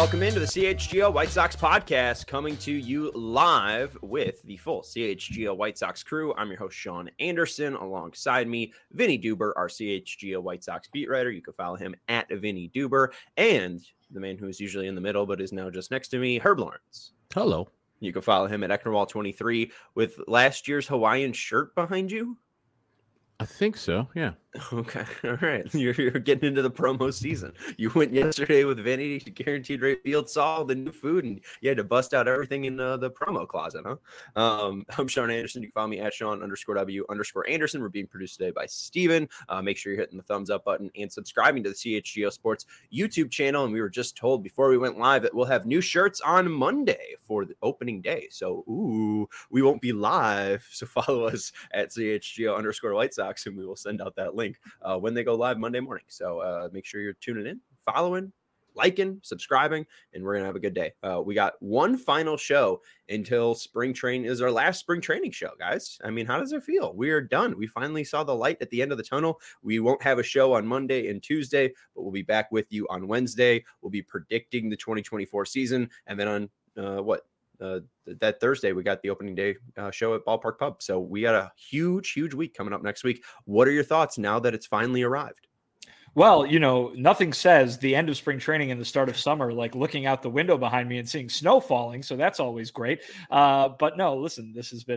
welcome into the CHGO White Sox podcast, coming to you live with the full CHGO White Sox crew. I'm your host, Sean Anderson. Alongside me, Vinny Duber, our CHGO White Sox beat writer. You can follow him at Vinny Duber. And the man who is usually in the middle but is now just next to me, Herb Lawrence. Hello. You can follow him at Ecknerwall23 with last year's Hawaiian shirt behind you. I think so, yeah. Okay, all right. You're getting into the promo season. You went yesterday with Vinny, Guaranteed Rate Field, saw all the new food, and you had to bust out everything in the promo closet, huh? I'm Sean Anderson. You can follow me at Sean_W_Anderson. We're being produced today by Steven. Make sure you're hitting the thumbs up button and subscribing to the CHGO Sports YouTube channel. And we were just told before we went live that we'll have new shirts on Monday for the opening day. So, we won't be live. So follow us at CHGO_White Sox, and we will send out that link when they go live Monday morning. So make sure you're tuning in, following, liking, subscribing, and we're going to have a good day. We got one final show until spring training is our last spring training show, guys. I mean, how does it feel? We are done. We finally saw the light at the end of the tunnel. We won't have a show on Monday and Tuesday, but we'll be back with you on Wednesday. We'll be predicting the 2024 season. And then on that Thursday, we got the opening day show at Ballpark Pub. So we got a huge week coming up next week. What are your thoughts now that it's finally arrived? Well, nothing says the end of spring training and the start of summer like looking out the window behind me and seeing snow falling. So that's always great. But no, listen, this has been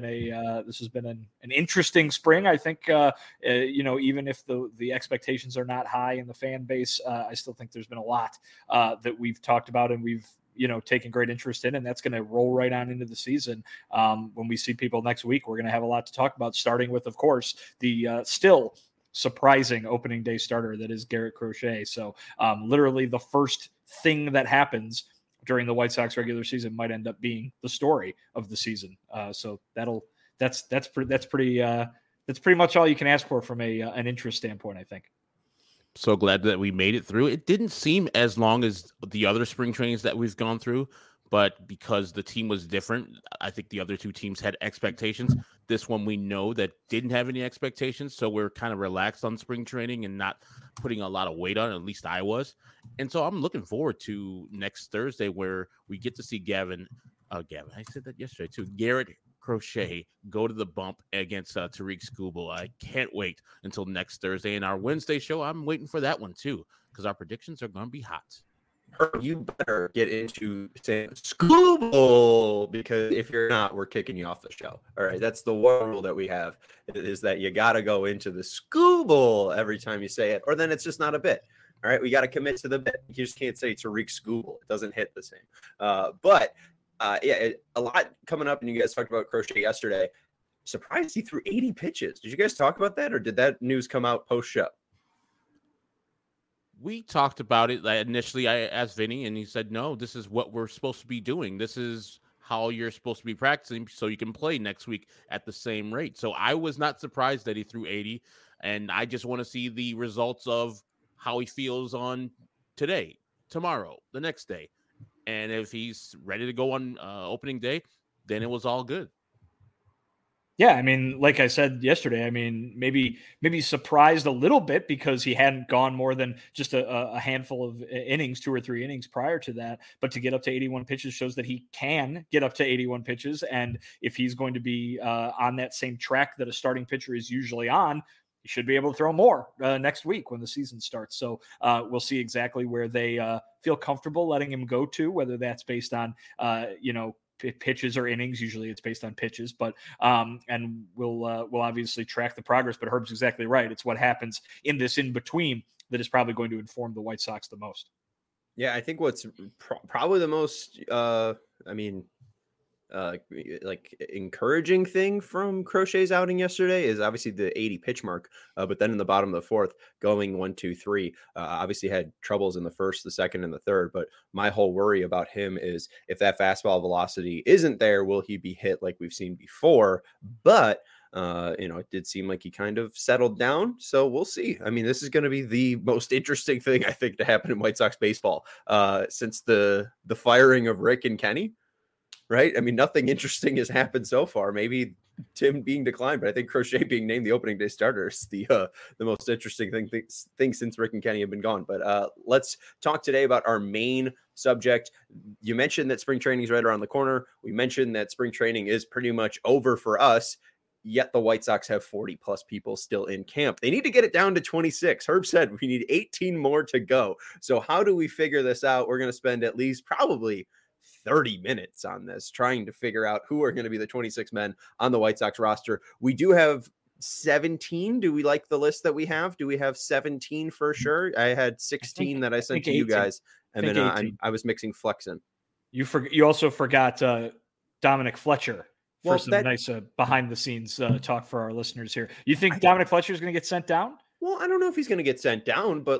an interesting spring. I think even if the expectations are not high in the fan base, I still think there's been a lot that we've talked about and we've taken great interest in, and that's going to roll right on into the season. When we see people next week, we're going to have a lot to talk about, starting with, of course, the still surprising opening day starter that is Garrett Crochet. So literally the first thing that happens during the White Sox regular season might end up being the story of the season. So that's pretty much all you can ask for from an interest standpoint, I think. So glad that we made it through. It didn't seem as long as the other spring trainings that we've gone through, but because the team was different, I think the other two teams had expectations. This one we know that didn't have any expectations, so we're kind of relaxed on spring training and not putting a lot of weight on it, at least I was. And so I'm looking forward to next Thursday where we get to see Gavin, I said that yesterday too, Garrett Crochet go to the bump against Tariq Skubal. I can't wait until next Thursday. And our Wednesday show, I'm waiting for that one too, because our predictions are going to be hot. You better get into saying Skubal, because if you're not, we're kicking you off the show. All right, that's the one rule that we have, is that you got to go into the Skubal every time you say it, or then it's just not a bit. All right, we got to commit to the bit. You just can't say Tariq Skubal. It doesn't hit the same. A lot coming up, and you guys talked about Crochet yesterday. Surprised he threw 80 pitches. Did you guys talk about that, or did that news come out post-show? We talked about it. Initially, I asked Vinny, and he said, no, this is what we're supposed to be doing. This is how you're supposed to be practicing so you can play next week at the same rate. So I was not surprised that he threw 80, and I just want to see the results of how he feels on today, tomorrow, the next day. And if he's ready to go on opening day, then it was all good. Yeah, I mean, like I said yesterday, I mean, maybe surprised a little bit because he hadn't gone more than just a handful of innings, 2 or 3 innings prior to that. But to get up to 81 pitches shows that he can get up to 81 pitches. And if he's going to be on that same track that a starting pitcher is usually on, he should be able to throw more next week when the season starts. So we'll see exactly where they feel comfortable letting him go to, whether that's based on, pitches or innings. Usually it's based on pitches, but and we'll obviously track the progress. But Herb's exactly right. It's what happens in this in between that is probably going to inform the White Sox the most. Yeah, I think what's probably the most, encouraging thing from Crochet's outing yesterday is obviously the 80 pitch mark. But then in the bottom of the fourth, going 1, 2, 3, obviously had troubles in the first, the second, and the third. But my whole worry about him is if that fastball velocity isn't there, will he be hit like we've seen before? But it did seem like he kind of settled down. So we'll see. I mean, this is going to be the most interesting thing, I think, to happen in White Sox baseball since the firing of Rick and Kenny. right? I mean, nothing interesting has happened so far. Maybe Tim being declined, but I think Crochet being named the opening day starter is the most interesting thing since Rick and Kenny have been gone. But let's talk today about our main subject. You mentioned that spring training is right around the corner. We mentioned that spring training is pretty much over for us. Yet the White Sox have 40 plus people still in camp. They need to get it down to 26. Herb said we need 18 more to go. So how do we figure this out? We're going to spend at least probably 30 minutes on this, trying to figure out who are going to be the 26 men on the White Sox roster. We do have 17. Do we like the list that we have? Do we have 17 for sure? I had 16 that I sent to 18. you guys, and then I was mixing Flexen. You also forgot Dominic Fletcher for Well, some nice behind the scenes talk for our listeners here. You think Dominic Fletcher is going to get sent down? Well, I don't know if he's going to get sent down, but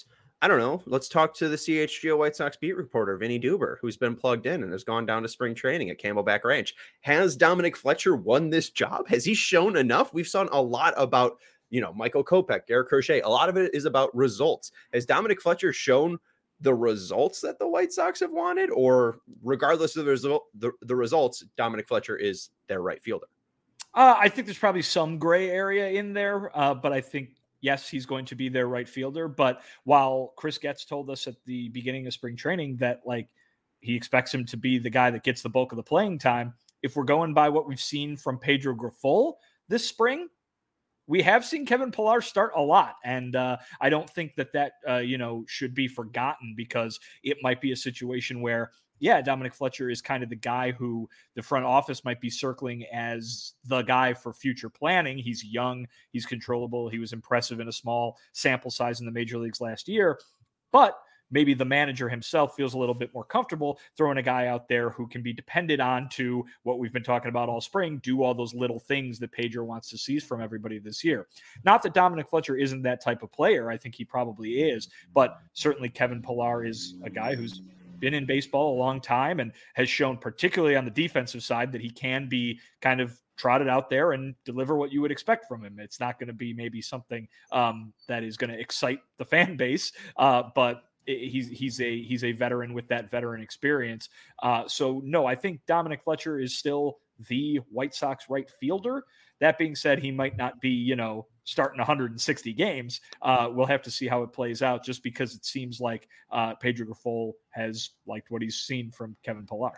I don't know. Let's talk to the CHGO White Sox beat reporter, Vinny Duber, who's been plugged in and has gone down to spring training at Camelback Ranch. Has Dominic Fletcher won this job? Has he shown enough? We've seen a lot about, Michael Kopech, Garrett Crochet. A lot of it is about results. Has Dominic Fletcher shown the results that the White Sox have wanted, or regardless of the results, Dominic Fletcher is their right fielder? I think there's probably some gray area in there, but I think, yes, he's going to be their right fielder. But while Chris Getz told us at the beginning of spring training that he expects him to be the guy that gets the bulk of the playing time, if we're going by what we've seen from Pedro Grifol this spring, we have seen Kevin Pillar start a lot. And I don't think that should be forgotten, because it might be a situation where, Dominic Fletcher is kind of the guy who the front office might be circling as the guy for future planning. He's young, he's controllable, he was impressive in a small sample size in the major leagues last year, but maybe the manager himself feels a little bit more comfortable throwing a guy out there who can be depended on to, what we've been talking about all spring, do all those little things that Pedro wants to see from everybody this year. Not that Dominic Fletcher isn't that type of player. I think he probably is, but certainly Kevin Pillar is a guy who's been in baseball a long time and has shown, particularly on the defensive side, that he can be kind of trotted out there and deliver what you would expect from him. It's not going to be maybe something that is going to excite the fan base, but he's a veteran with that veteran experience. So no, I think Dominic Fletcher is still the White Sox right fielder. That being said, he might not be, starting 160 games. We'll have to see how it plays out, just because it seems like Pedro Grifol has liked what he's seen from Kevin Pillar.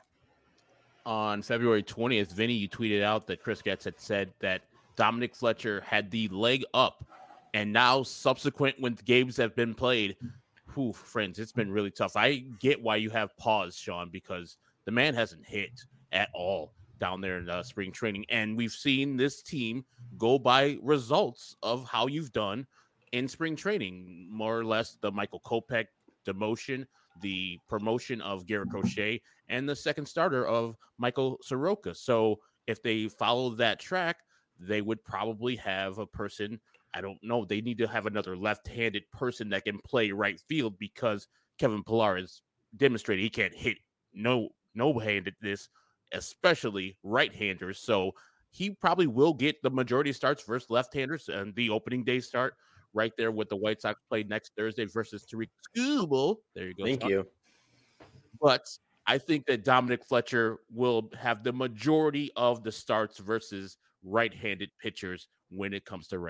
On February 20th, Vinny, you tweeted out that Chris Getz had said that Dominic Fletcher had the leg up, and now subsequent when games have been played, friends, it's been really tough. I get why you have pause, Sean, because the man hasn't hit at all down there in spring training. And we've seen this team go by results of how you've done in spring training, more or less the Michael Kopech demotion, the promotion of Garrett Crochet, and the second starter of Michael Soroka. So if they follow that track, they would probably have a person, I don't know, they need to have another left-handed person that can play right field, because Kevin Pillar has demonstrated he can't hit no-handedness, especially right-handers. So he probably will get the majority of starts versus left-handers, and the opening day start right there with the White Sox play next Thursday versus Tariq Skubal. There you go. Thank you. But I think that Dominic Fletcher will have the majority of the starts versus right-handed pitchers when it comes to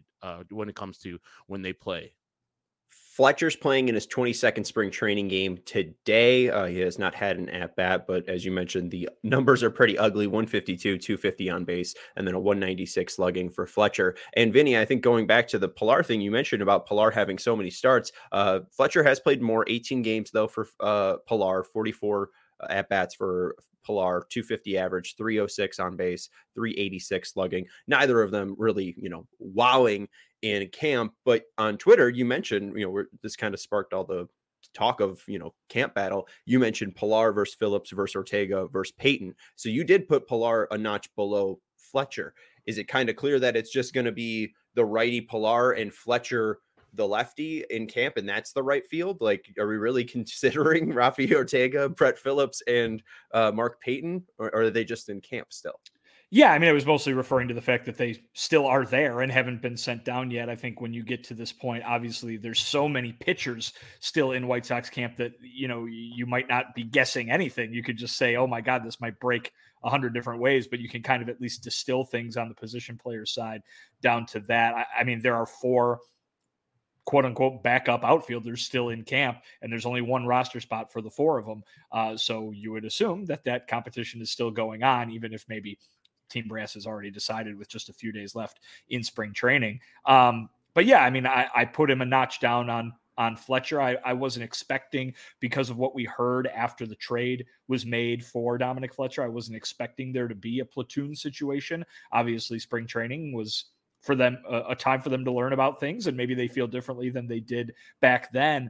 when they play. Fletcher's playing in his 22nd spring training game today. He has not had an at-bat, but as you mentioned, the numbers are pretty ugly. 152, 250 on base, and then a 196 slugging for Fletcher. And Vinny, I think going back to the Pillar thing you mentioned about Pillar having so many starts, Fletcher has played more, 18 games though for Pillar, 44 at-bats for Pillar, 250 average, 306 on base, 386 slugging. Neither of them really, wowing in camp. But on Twitter, you mentioned, this kind of sparked all the talk of, camp battle. You mentioned Pillar versus Phillips versus Ortega versus Payton. So you did put Pillar a notch below Fletcher. Is it kind of clear that it's just going to be the righty Pillar and Fletcher the lefty in camp, and that's the right field? Like, are we really considering Rafi Ortega, Brett Phillips, and Mark Payton, or are they just in camp still? Yeah, I mean, I was mostly referring to the fact that they still are there and haven't been sent down yet. I think when you get to this point, obviously there's so many pitchers still in White Sox camp that, you might not be guessing anything. You could just say, oh my God, this might break 100 different ways, but you can kind of at least distill things on the position player side down to that. I mean, there are 4 quote unquote backup outfielders still in camp, and there's only one roster spot for the 4 of them. So you would assume that competition is still going on, even if maybe Team Brass has already decided with just a few days left in spring training. But yeah, I mean, I put him a notch down on Fletcher. I wasn't expecting, because of what we heard after the trade was made for Dominic Fletcher, I wasn't expecting there to be a platoon situation. Obviously, spring training was for them a time for them to learn about things, and maybe they feel differently than they did back then,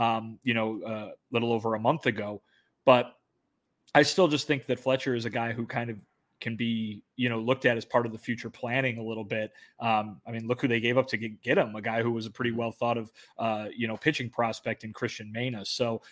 little over a month ago. But I still just think that Fletcher is a guy who kind of can be, looked at as part of the future planning a little bit. I mean, look who they gave up to get him, a guy who was a pretty well thought of, pitching prospect in Christian Mena. So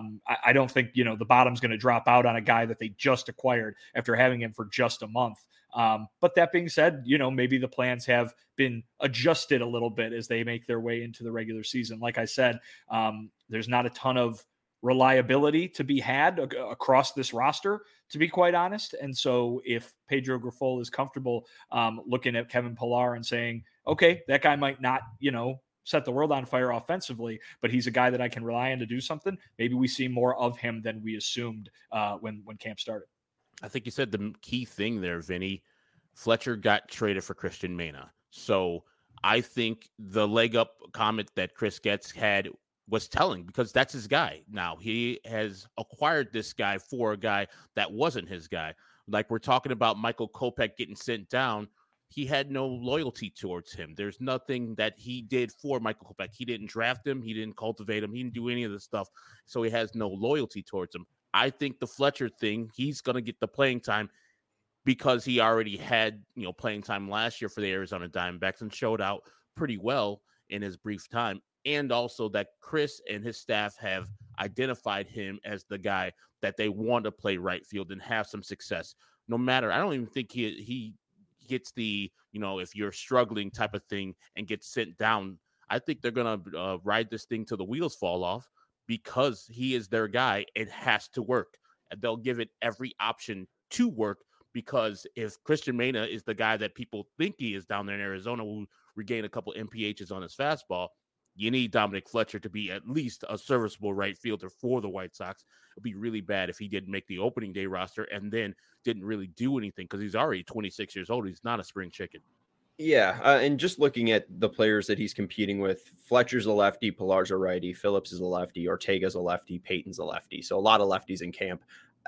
I don't think, the bottom's going to drop out on a guy that they just acquired after having him for just a month. But that being said, maybe the plans have been adjusted a little bit as they make their way into the regular season. Like I said, there's not a ton of reliability to be had across this roster, to be quite honest. And so if Pedro Grifol is comfortable looking at Kevin Pillar and saying, okay, that guy might not, set the world on fire offensively, but he's a guy that I can rely on to do something, maybe we see more of him than we assumed when camp started. I think you said the key thing there, Vinny. Fletcher got traded for Christian Mena. So I think the leg up comment that Chris Getz had was telling, because that's his guy. Now he has acquired this guy for a guy that wasn't his guy. Like we're talking about Michael Kopech getting sent down. He had no loyalty towards him. There's nothing that he did for Michael Kopech. He didn't draft him. He didn't cultivate him. He didn't do any of this stuff. So he has no loyalty towards him. I think the Fletcher thing, he's going to get the playing time because he already had, playing time last year for the Arizona Diamondbacks and showed out pretty well in his brief time. And also that Chris and his staff have identified him as the guy that they want to play right field and have some success. No matter, I don't even think he gets the, if you're struggling type of thing and gets sent down. I think they're going to ride this thing till the wheels fall off because he is their guy. It has to work. And they'll give it every option to work, because if Christian Mena is the guy that people think he is down there in Arizona, who regain a couple MPHs on his fastball, you need Dominic Fletcher to be at least a serviceable right fielder for the White Sox. It'd be really bad if he didn't make the opening day roster and then didn't really do anything, because he's already 26 years old. He's not a spring chicken. Yeah, and just looking at the players that he's competing with, Fletcher's a lefty, Pillar's a righty, Phillips is a lefty, Ortega's a lefty, Payton's a lefty. So a lot of lefties in camp.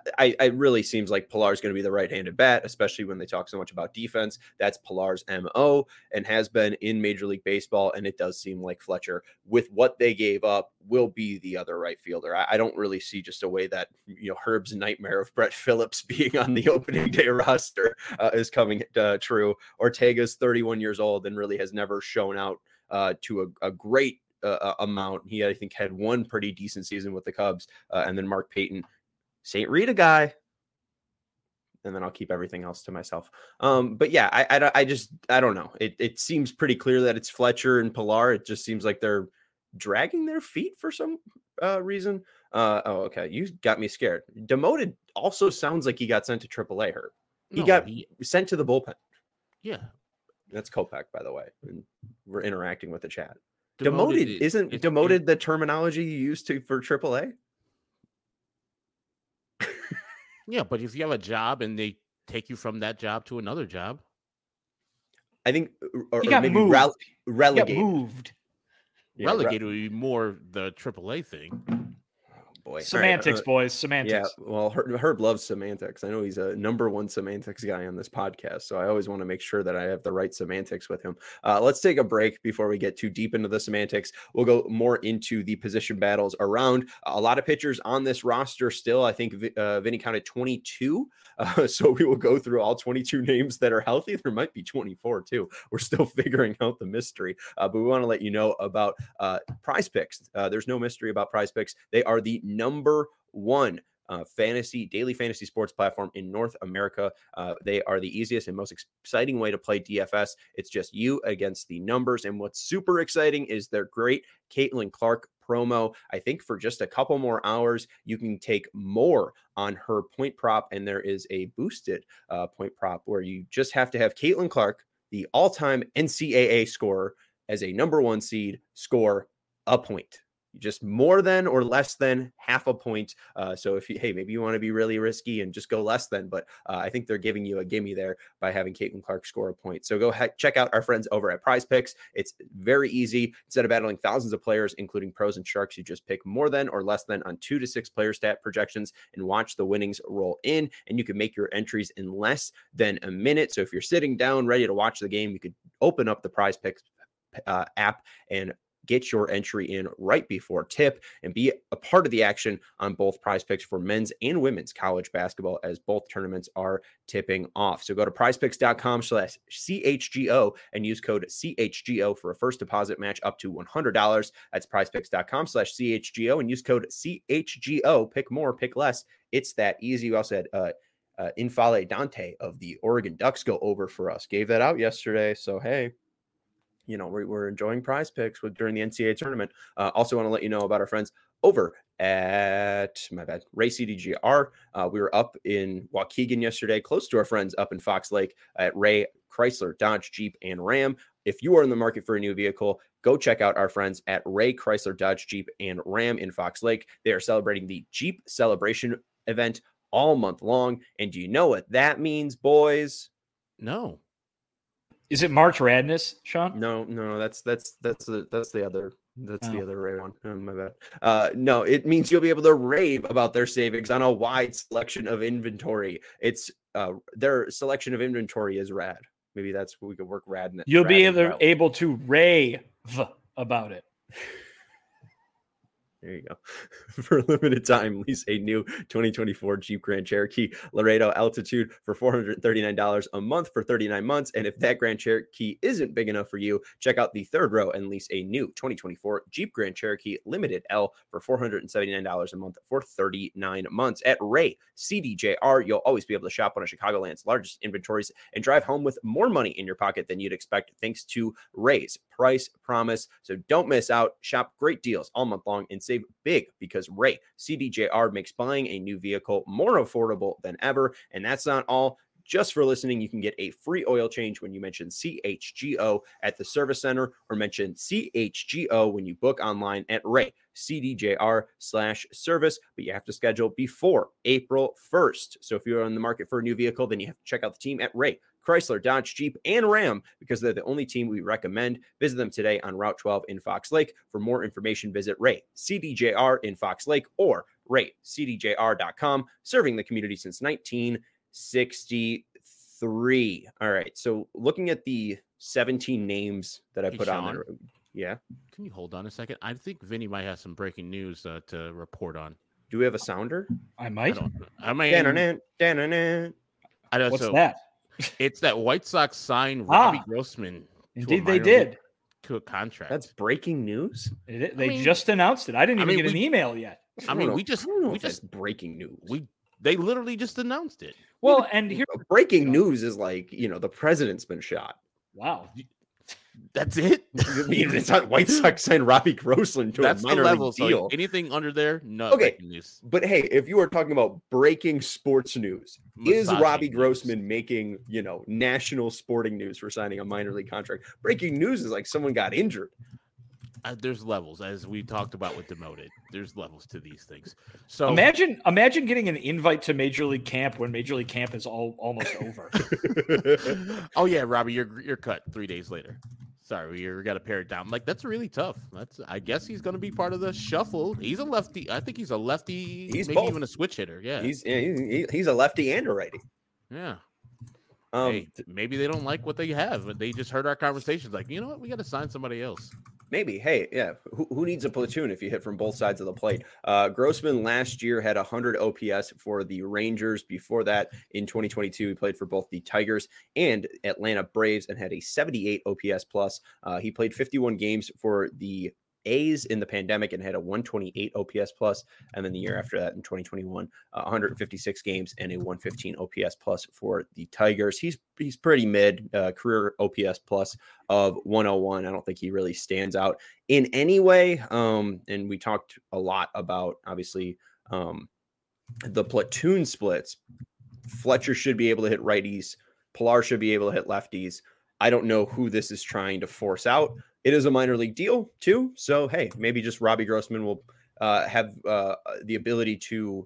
It really seems like Pillar is going to be the right-handed bat, especially when they talk so much about defense. That's Pillar's MO and has been in Major League Baseball. And it does seem like Fletcher, with what they gave up, will be the other right fielder. I don't really see just a way that, Herb's nightmare of Brett Phillips being on the opening day roster is coming true. Ortega's 31 years old and really has never shown out to a great amount. He, I think, had one pretty decent season with the Cubs. And then Mark Payton, St. Rita guy, and then I'll keep everything else to myself. But yeah, I don't know. It seems pretty clear that it's Fletcher and Pillar. It just seems like they're dragging their feet for some reason. Okay, you got me scared. Demoted also sounds like he got sent to AAA. Hurt. He got sent to the bullpen. Yeah, that's Kopech, by the way. And we're interacting with the chat. Demoted isn't demoted the terminology you used for AAA? Yeah, but if you have a job and they take you from that job to another job, I think, or he got maybe moved. Relegated. He got moved. Yeah, relegated would be more the AAA thing. Boy, semantics, right. Boys, semantics. Yeah, well, Herb loves semantics. I know he's a number one semantics guy on this podcast, so I always want to make sure that I have the right semantics with him. Let's take a break before we get too deep into the semantics. We'll go more into the position battles around. A lot of pitchers on this roster still. I think Vinny counted 22, so we will go through all 22 names that are healthy. There might be 24 too. We're still figuring out the mystery, but we want to let you know about Prize Picks. There's no mystery about Prize Picks. They are the number one daily fantasy sports platform in North America. They are the easiest and most exciting way to play DFS. It's just you against the numbers. And what's super exciting is their great Caitlin Clark promo. I think for just a couple more hours, you can take more on her point prop. And there is a boosted point prop where you just have to have Caitlin Clark, the all-time NCAA scorer, as a number 1 seed, score a point. Just more than or less than half a point. So if maybe you want to be really risky and just go less than, but I think they're giving you a gimme there by having Caitlin Clark score a point. So go check out our friends over at Prize Picks. It's very easy. Instead of battling thousands of players, including pros and sharks, you just pick more than or less than on 2 to 6 player stat projections and watch the winnings roll in. And you can make your entries in less than a minute. So if you're sitting down ready to watch the game, you could open up the Prize Picks app and get your entry in right before tip and be a part of the action on both Prize Picks for men's and women's college basketball, as both tournaments are tipping off. So go to prizepicks.com/CHGO and use code CHGO for a first deposit match up to $100. That's prizepicks.com/CHGO and use code CHGO. Pick more, pick less. It's that easy. We also had Infale Dante of the Oregon Ducks go over for us. Gave that out yesterday. So, hey, we're enjoying Prize Picks during the NCAA tournament. Also want to let you know about our friends over at, Ray CDGR. We were up in Waukegan yesterday, close to our friends up in Fox Lake at Ray Chrysler, Dodge, Jeep, and Ram. If you are in the market for a new vehicle, go check out our friends at Ray Chrysler, Dodge, Jeep, and Ram in Fox Lake. They are celebrating the Jeep Celebration event all month long. And do you know what that means, boys? No. Is it March Radness, Sean? No, that's the other. That's the other Ray one. Oh, my bad. No, it means you'll be able to rave about their savings on a wide selection of inventory. It's their selection of inventory is rad. Maybe that's what we could work rad in. You'll be able to rave about it. There you go. For a limited time, lease a new 2024 Jeep Grand Cherokee Laredo Altitude for $439 a month for 39 months. And if that Grand Cherokee isn't big enough for you, check out the third row and lease a new 2024 Jeep Grand Cherokee Limited L for $479 a month for 39 months. At Ray CDJR, you'll always be able to shop one of Chicagoland's largest inventories and drive home with more money in your pocket than you'd expect, thanks to Ray's price promise. So don't miss out. Shop great deals all month long and save big, because Ray CDJR makes buying a new vehicle more affordable than ever. And that's not all. Just for listening, you can get a free oil change when you mention CHGO at the service center, or mention CHGO when you book online at Ray CDJR/service, but you have to schedule before April 1st. So if you're on the market for a new vehicle, then you have to check out the team at Ray Chrysler, Dodge, Jeep, and Ram, because they're the only team we recommend. Visit them today on Route 12 in Fox Lake. For more information, visit Ray CDJR in Fox Lake or raycdjr.com, serving the community since 1963. All right, so looking at the 17 names that I put on there. Yeah. Can you hold on a second? I think Vinny might have some breaking news to report on. Do we have a sounder? I might. I mean, What's that? It's that White Sox signed Robbie Grossman. Indeed, they did. To a contract. That's breaking news. They just announced it. I didn't even get an email yet. We just breaking news. They literally just announced it. Well, and here breaking news is like, the president's been shot. Wow. That's it. I mean, it's not White Sox signed Robbie Grossman to a minor league deal. So anything under there, no. Okay, but hey, if you are talking about breaking sports news, is Robbie Grossman making national sporting news for signing a minor league contract? Breaking news is like someone got injured. There's levels, as we talked about with Demoted. There's levels to these things. So imagine getting an invite to Major League Camp when Major League Camp is almost over. Oh yeah, Robbie, you're cut 3 days later. Sorry, we got to pare it down. Like, that's really tough. I guess he's going to be part of the shuffle. He's a lefty. I think he's a lefty. He's maybe both. Even a switch hitter. Yeah, he's a lefty and a righty. Yeah. Hey, maybe they don't like what they have, but they just heard our conversations. Like, you know what? We got to sign somebody else. Maybe. Hey, yeah. Who needs a platoon if you hit from both sides of the plate? Grossman last year had 100 OPS for the Rangers. Before that, in 2022, he played for both the Tigers and Atlanta Braves and had a 78 OPS plus. He played 51 games for the A's in the pandemic and had a 128 OPS plus, and then the year after that in 2021, 156 games and a 115 OPS plus for the Tigers. He's pretty mid, career OPS plus of 101. I don't think he really stands out in any way. And we talked a lot about obviously the platoon splits. Fletcher should be able to hit righties. Pilar should be able to hit lefties. I don't know who this is trying to force out. It is a minor league deal too. So, hey, maybe just Robbie Grossman will have the ability to,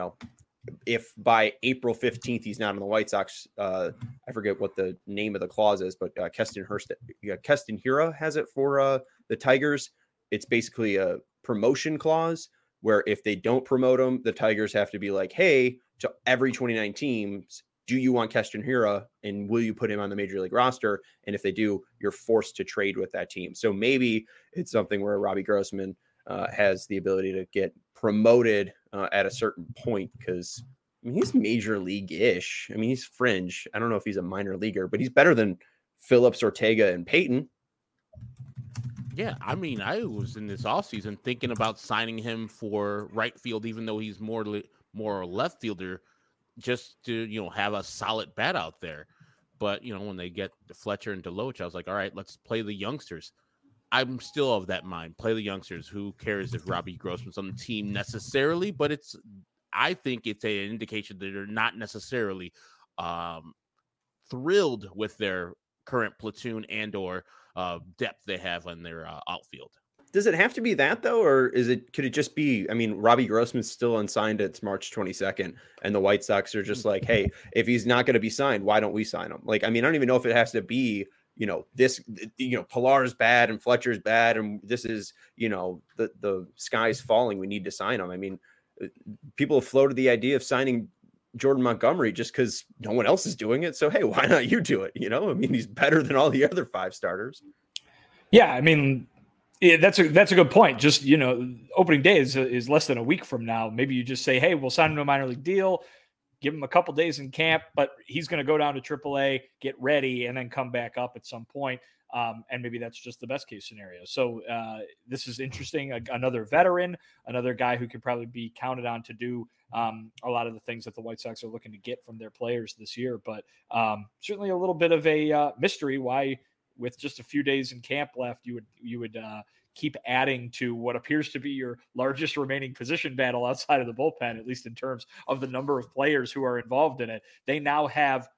if by April 15th he's not on the White Sox, I forget what the name of the clause is, but Keston Hiura has it for the Tigers. It's basically a promotion clause where if they don't promote him, the Tigers have to be like, hey, to every 29 teams, do you want Keston Hiura and will you put him on the major league roster? And if they do, you're forced to trade with that team. So maybe it's something where Robbie Grossman has the ability to get promoted at a certain point, because he's major league-ish. I mean, he's fringe. I don't know if he's a minor leaguer, but he's better than Phillips, Ortega, and Peyton. Yeah, I mean, I was in this offseason thinking about signing him for right field, even though he's more left fielder, just to, have a solid bat out there. But, when they get Fletcher and Deloach, I was like, all right, let's play the youngsters. I'm still of that mind. Play the youngsters. Who cares if Robbie Grossman's on the team necessarily? But I think it's an indication that they're not necessarily thrilled with their current platoon and or depth they have on their outfield. Does it have to be that though, or could it just be? I mean, Robbie Grossman's still unsigned. It's March 22nd, and the White Sox are just like, hey, if he's not going to be signed, why don't we sign him? Like, I mean, I don't even know if it has to be, this, Pilar's bad and Fletcher's bad, and this is, the sky's falling. We need to sign him. I mean, people have floated the idea of signing Jordan Montgomery just because no one else is doing it. So, hey, why not you do it? I mean, he's better than all the other 5 starters. Yeah, I mean, that's a good point. Just, opening day is less than a week from now. Maybe you just say, hey, we'll sign him to a minor league deal, give him a couple days in camp, but he's going to go down to AAA, get ready, and then come back up at some point. And maybe that's just the best case scenario. So this is interesting. Another veteran, another guy who could probably be counted on to do a lot of the things that the White Sox are looking to get from their players this year. But certainly a little bit of a mystery why, with just a few days in camp left, you would keep adding to what appears to be your largest remaining position battle outside of the bullpen, at least in terms of the number of players who are involved in it. They now have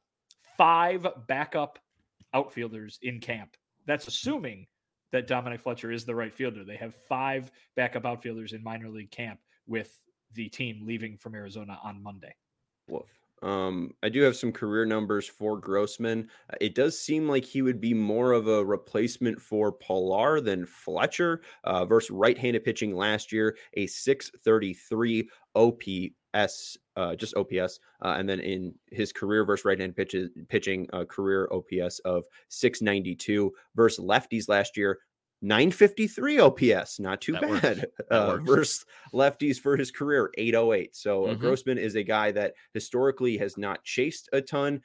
5 backup outfielders in camp. That's assuming that Dominic Fletcher is the right fielder. They have 5 backup outfielders in minor league camp, with the team leaving from Arizona on Monday. Woof. I do have some career numbers for Grossman. It does seem like he would be more of a replacement for Pilar than Fletcher versus right-handed pitching last year, a 633 OPS, just OPS. And then in his career versus right-handed pitching, career OPS of 692 versus lefties last year. 953 OPS, not too bad. Versus lefties for his career, 808. So Grossman is a guy that historically has not chased a ton.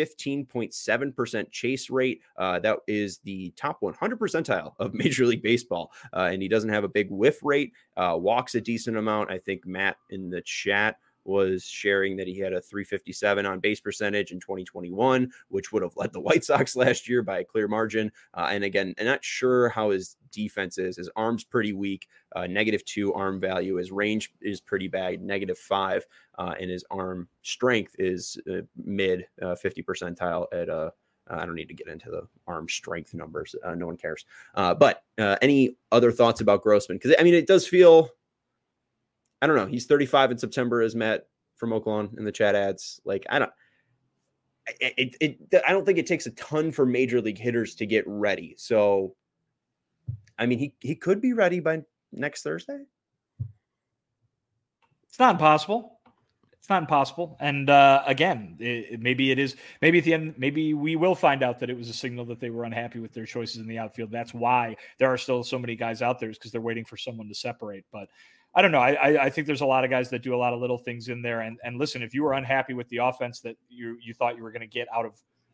15.7% chase rate. That is the top 100 percentile of Major League Baseball. And he doesn't have a big whiff rate. Walks a decent amount. I think Matt in the chat was sharing that he had a 357 on base percentage in 2021, which would have led the White Sox last year by a clear margin. And again, I'm not sure how his defense is. His arm's pretty weak, -2 arm value. His range is pretty bad, -5. And his arm strength is mid 50 percentile at I don't need to get into the arm strength numbers. No one cares. But any other thoughts about Grossman? Because, I mean, it does feel, I don't know. He's 35 in September, as Matt from Oakland in the chat adds. Like, I don't think it takes a ton for major league hitters to get ready. So, I mean, he could be ready by next Thursday. It's not impossible. It's not impossible. And again, maybe it is. Maybe at the end, maybe we will find out that it was a signal that they were unhappy with their choices in the outfield. That's why there are still so many guys out there, is because they're waiting for someone to separate. But I don't know. I think there's a lot of guys that do a lot of little things in there. And listen, if you were unhappy with the offense that you thought you were going to get out of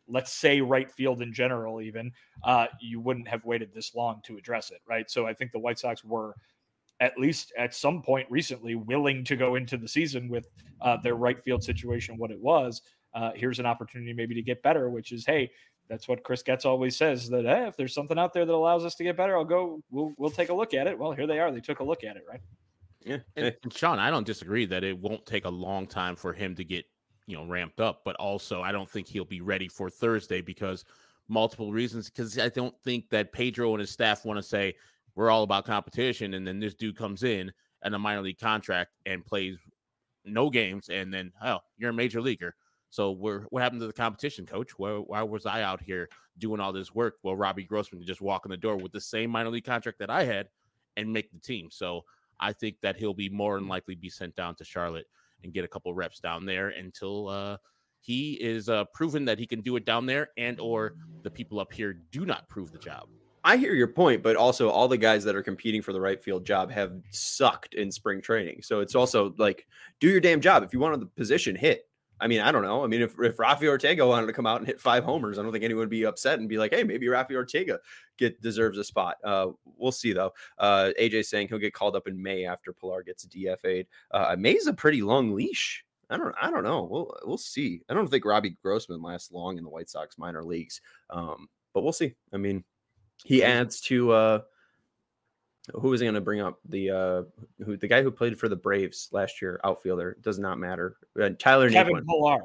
let's say right field in general, even, you wouldn't have waited this long to address it, right? So I think the White Sox were, at least at some point recently, willing to go into the season with their right field situation what it was. Here's an opportunity maybe to get better, which is, hey, that's what Chris Getz always says, that if there's something out there that allows us to get better, we'll take a look at it. Well, here they are. They took a look at it, right? Yeah. And Sean, I don't disagree that it won't take a long time for him to get, ramped up, but also I don't think he'll be ready for Thursday because multiple reasons. Because I don't think that Pedro and his staff want to say we're all about competition, and then this dude comes in a minor league contract and plays no games, and then you're a major leaguer. So what happened to the competition, coach? Why was I out here doing all this work? Well, Robbie Grossman could just walk in the door with the same minor league contract that I had and make the team. So I think that he'll be more than likely be sent down to Charlotte and get a couple reps down there until he is proven that he can do it down there, and or the people up here do not prove the job. I hear your point, but also all the guys that are competing for the right field job have sucked in spring training. So it's also like, do your damn job. If you wanted the position, hit. I mean, I don't know. I mean, if Rafi Ortega wanted to come out and hit 5 homers, I don't think anyone would be upset and be like, hey, maybe Rafi Ortega deserves a spot. We'll see, though. AJ saying he'll get called up in May after Pilar gets DFA'd. May's a pretty long leash. I don't know. We'll see. I don't think Robbie Grossman lasts long in the White Sox minor leagues, but we'll see. I mean, he adds to who was he going to bring up? The guy who played for the Braves last year, outfielder, does not matter. Tyler Kevin Naquin. Pillar.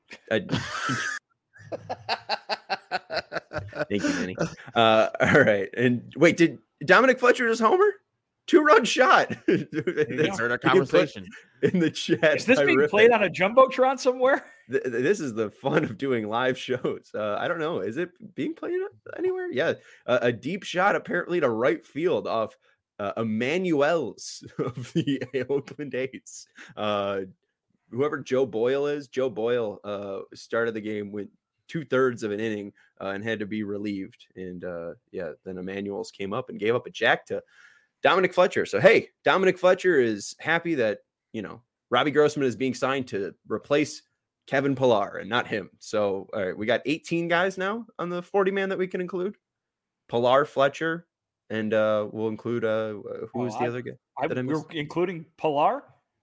Thank you, Manny. All right, and wait, did Dominic Fletcher just homer? 2-run shot. Heard our conversation in the chat. Is this being played on a jumbotron somewhere? This is the fun of doing live shows. I don't know. Is it being played anywhere? Yeah. A deep shot apparently to right field off Emmanuel's of the Oakland A's. Whoever Joe Boyle is, Joe Boyle started the game with 2/3 of an inning and had to be relieved. And then Emmanuel's came up and gave up a jack to Dominic Fletcher. So, hey, Dominic Fletcher is happy that, Robbie Grossman is being signed to replace Kevin Pillar and not him. So, all right, we got 18 guys now on the 40-man that we can include. Pillar, Fletcher, and we'll include who's the other guy? We're including Pillar?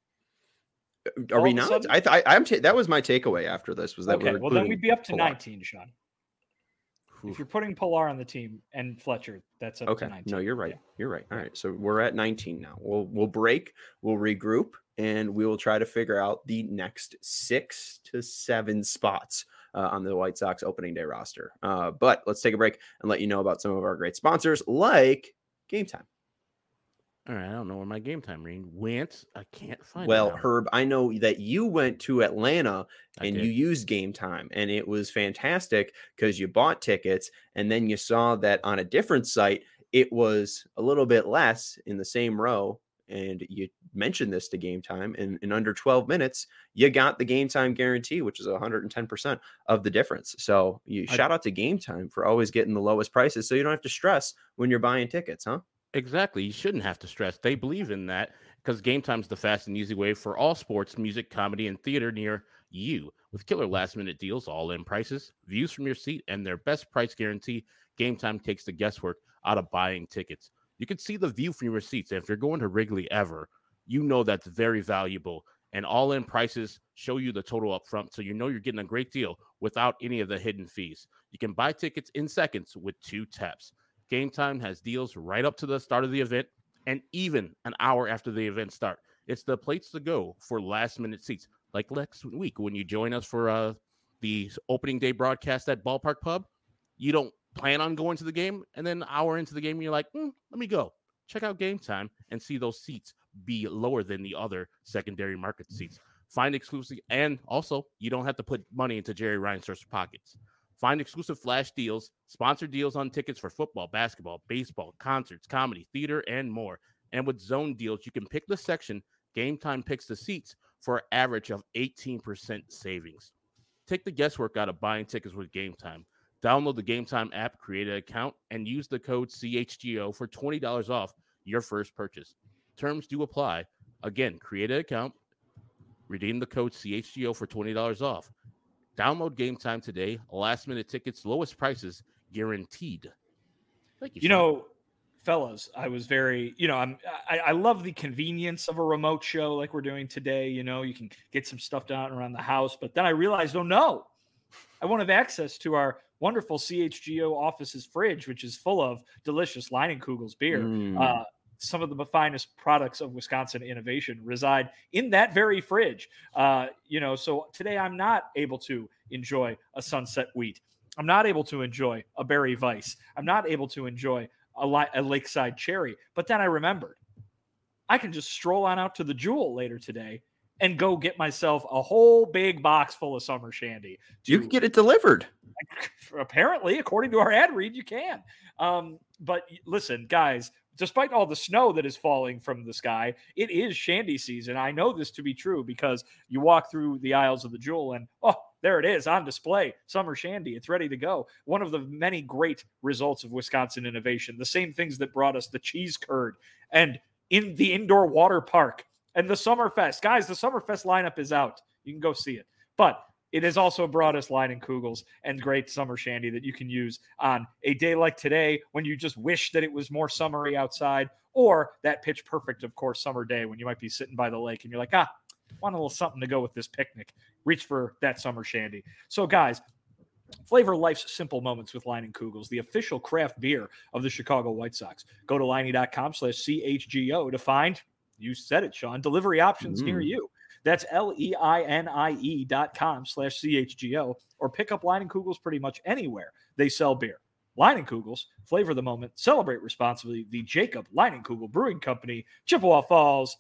Are we not? That was my takeaway after this. Was that okay? Well, then we'd be up to Pillar. 19, Sean. If you're putting Pillar on the team and Fletcher, that's up to 19. No, you're right. Yeah. You're right. All right. So we're at 19 now. We'll break, we'll regroup, and we will try to figure out the next 6 to 7 spots on the White Sox opening day roster. But let's take a break and let you know about some of our great sponsors like Game Time. All right, I don't know where my Game Time ring went. I can't find it. Well, now. Herb, I know that you went to Atlanta and did. you used Game Time, and it was fantastic because you bought tickets, and then you saw that on a different site, it was a little bit less in the same row, and you mentioned this to Game Time, and in under 12 minutes, you got the Game Time guarantee, which is 110% of the difference. So shout out to Game Time for always getting the lowest prices so you don't have to stress when you're buying tickets, huh? Exactly. You shouldn't have to stress. They believe in that because Game Time's the fast and easy way for all sports, music, comedy, and theater near you. With killer last-minute deals, all-in prices, views from your seat, and their best price guarantee, Game Time takes the guesswork out of buying tickets. You can see the view from your seats, and if you're going to Wrigley ever, you know that's very valuable. And all-in prices show you the total up front, so you know you're getting a great deal without any of the hidden fees. You can buy tickets in seconds with 2 taps. Game Time has deals right up to the start of the event and even an hour after the event start. It's the place to go for last-minute seats. Like next week when you join us for the opening day broadcast at Ballpark Pub, you don't plan on going to the game, and then an hour into the game, you're like, let me go. Check out Game Time and see those seats be lower than the other secondary market seats. Find exclusive, and also, you don't have to put money into Jerry Reinsdorf's pockets. Find exclusive flash deals, sponsored deals on tickets for football, basketball, baseball, concerts, comedy, theater, and more. And with zone deals, you can pick the section. Game Time picks the seats for an average of 18% savings. Take the guesswork out of buying tickets with Game Time. Download the Game Time app, create an account, and use the code CHGO for $20 off your first purchase. Terms do apply. Again, create an account, redeem the code CHGO for $20 off. Download Game Time today. Last minute tickets, lowest prices guaranteed. Thank you. You know, fellas, I was very, I love the convenience of a remote show like we're doing today. You know, you can get some stuff done around the house, but then I realized, oh no, I won't have access to our wonderful CHGO office's fridge, which is full of delicious Leinenkugel's beer. Some of the finest products of Wisconsin innovation reside in that very fridge. So today I'm not able to enjoy a Sunset Wheat. I'm not able to enjoy a Berry Vice. I'm not able to enjoy a Lakeside Cherry. But then I remembered I can just stroll on out to the Jewel later today and go get myself a whole big box full of summer shandy. You can get it delivered. Apparently, according to our ad read, you can. But listen, guys, despite all the snow that is falling from the sky, it is shandy season. I know this to be true because you walk through the aisles of the Jewel and, there it is on display. Summer shandy. It's ready to go. One of the many great results of Wisconsin innovation, the same things that brought us the cheese curd and in the indoor water park and the Summerfest. Guys, the Summerfest lineup is out. You can go see it. But it has also brought us Leinenkugel's and great summer shandy that you can use on a day like today when you just wish that it was more summery outside, or that pitch perfect, of course, summer day when you might be sitting by the lake and you're like, want a little something to go with this picnic. Reach for that summer shandy. So, guys, flavor life's simple moments with Leinenkugel's, the official craft beer of the Chicago White Sox. Go to Leinie.com/CHGO to find, you said it, Sean, delivery options near you. That's LEINIE.com/CHGO, or pick up Leinenkugel's pretty much anywhere they sell beer. Leinenkugel's, flavor the moment, celebrate responsibly. The Jacob Leinenkugel Brewing Company, Chippewa Falls.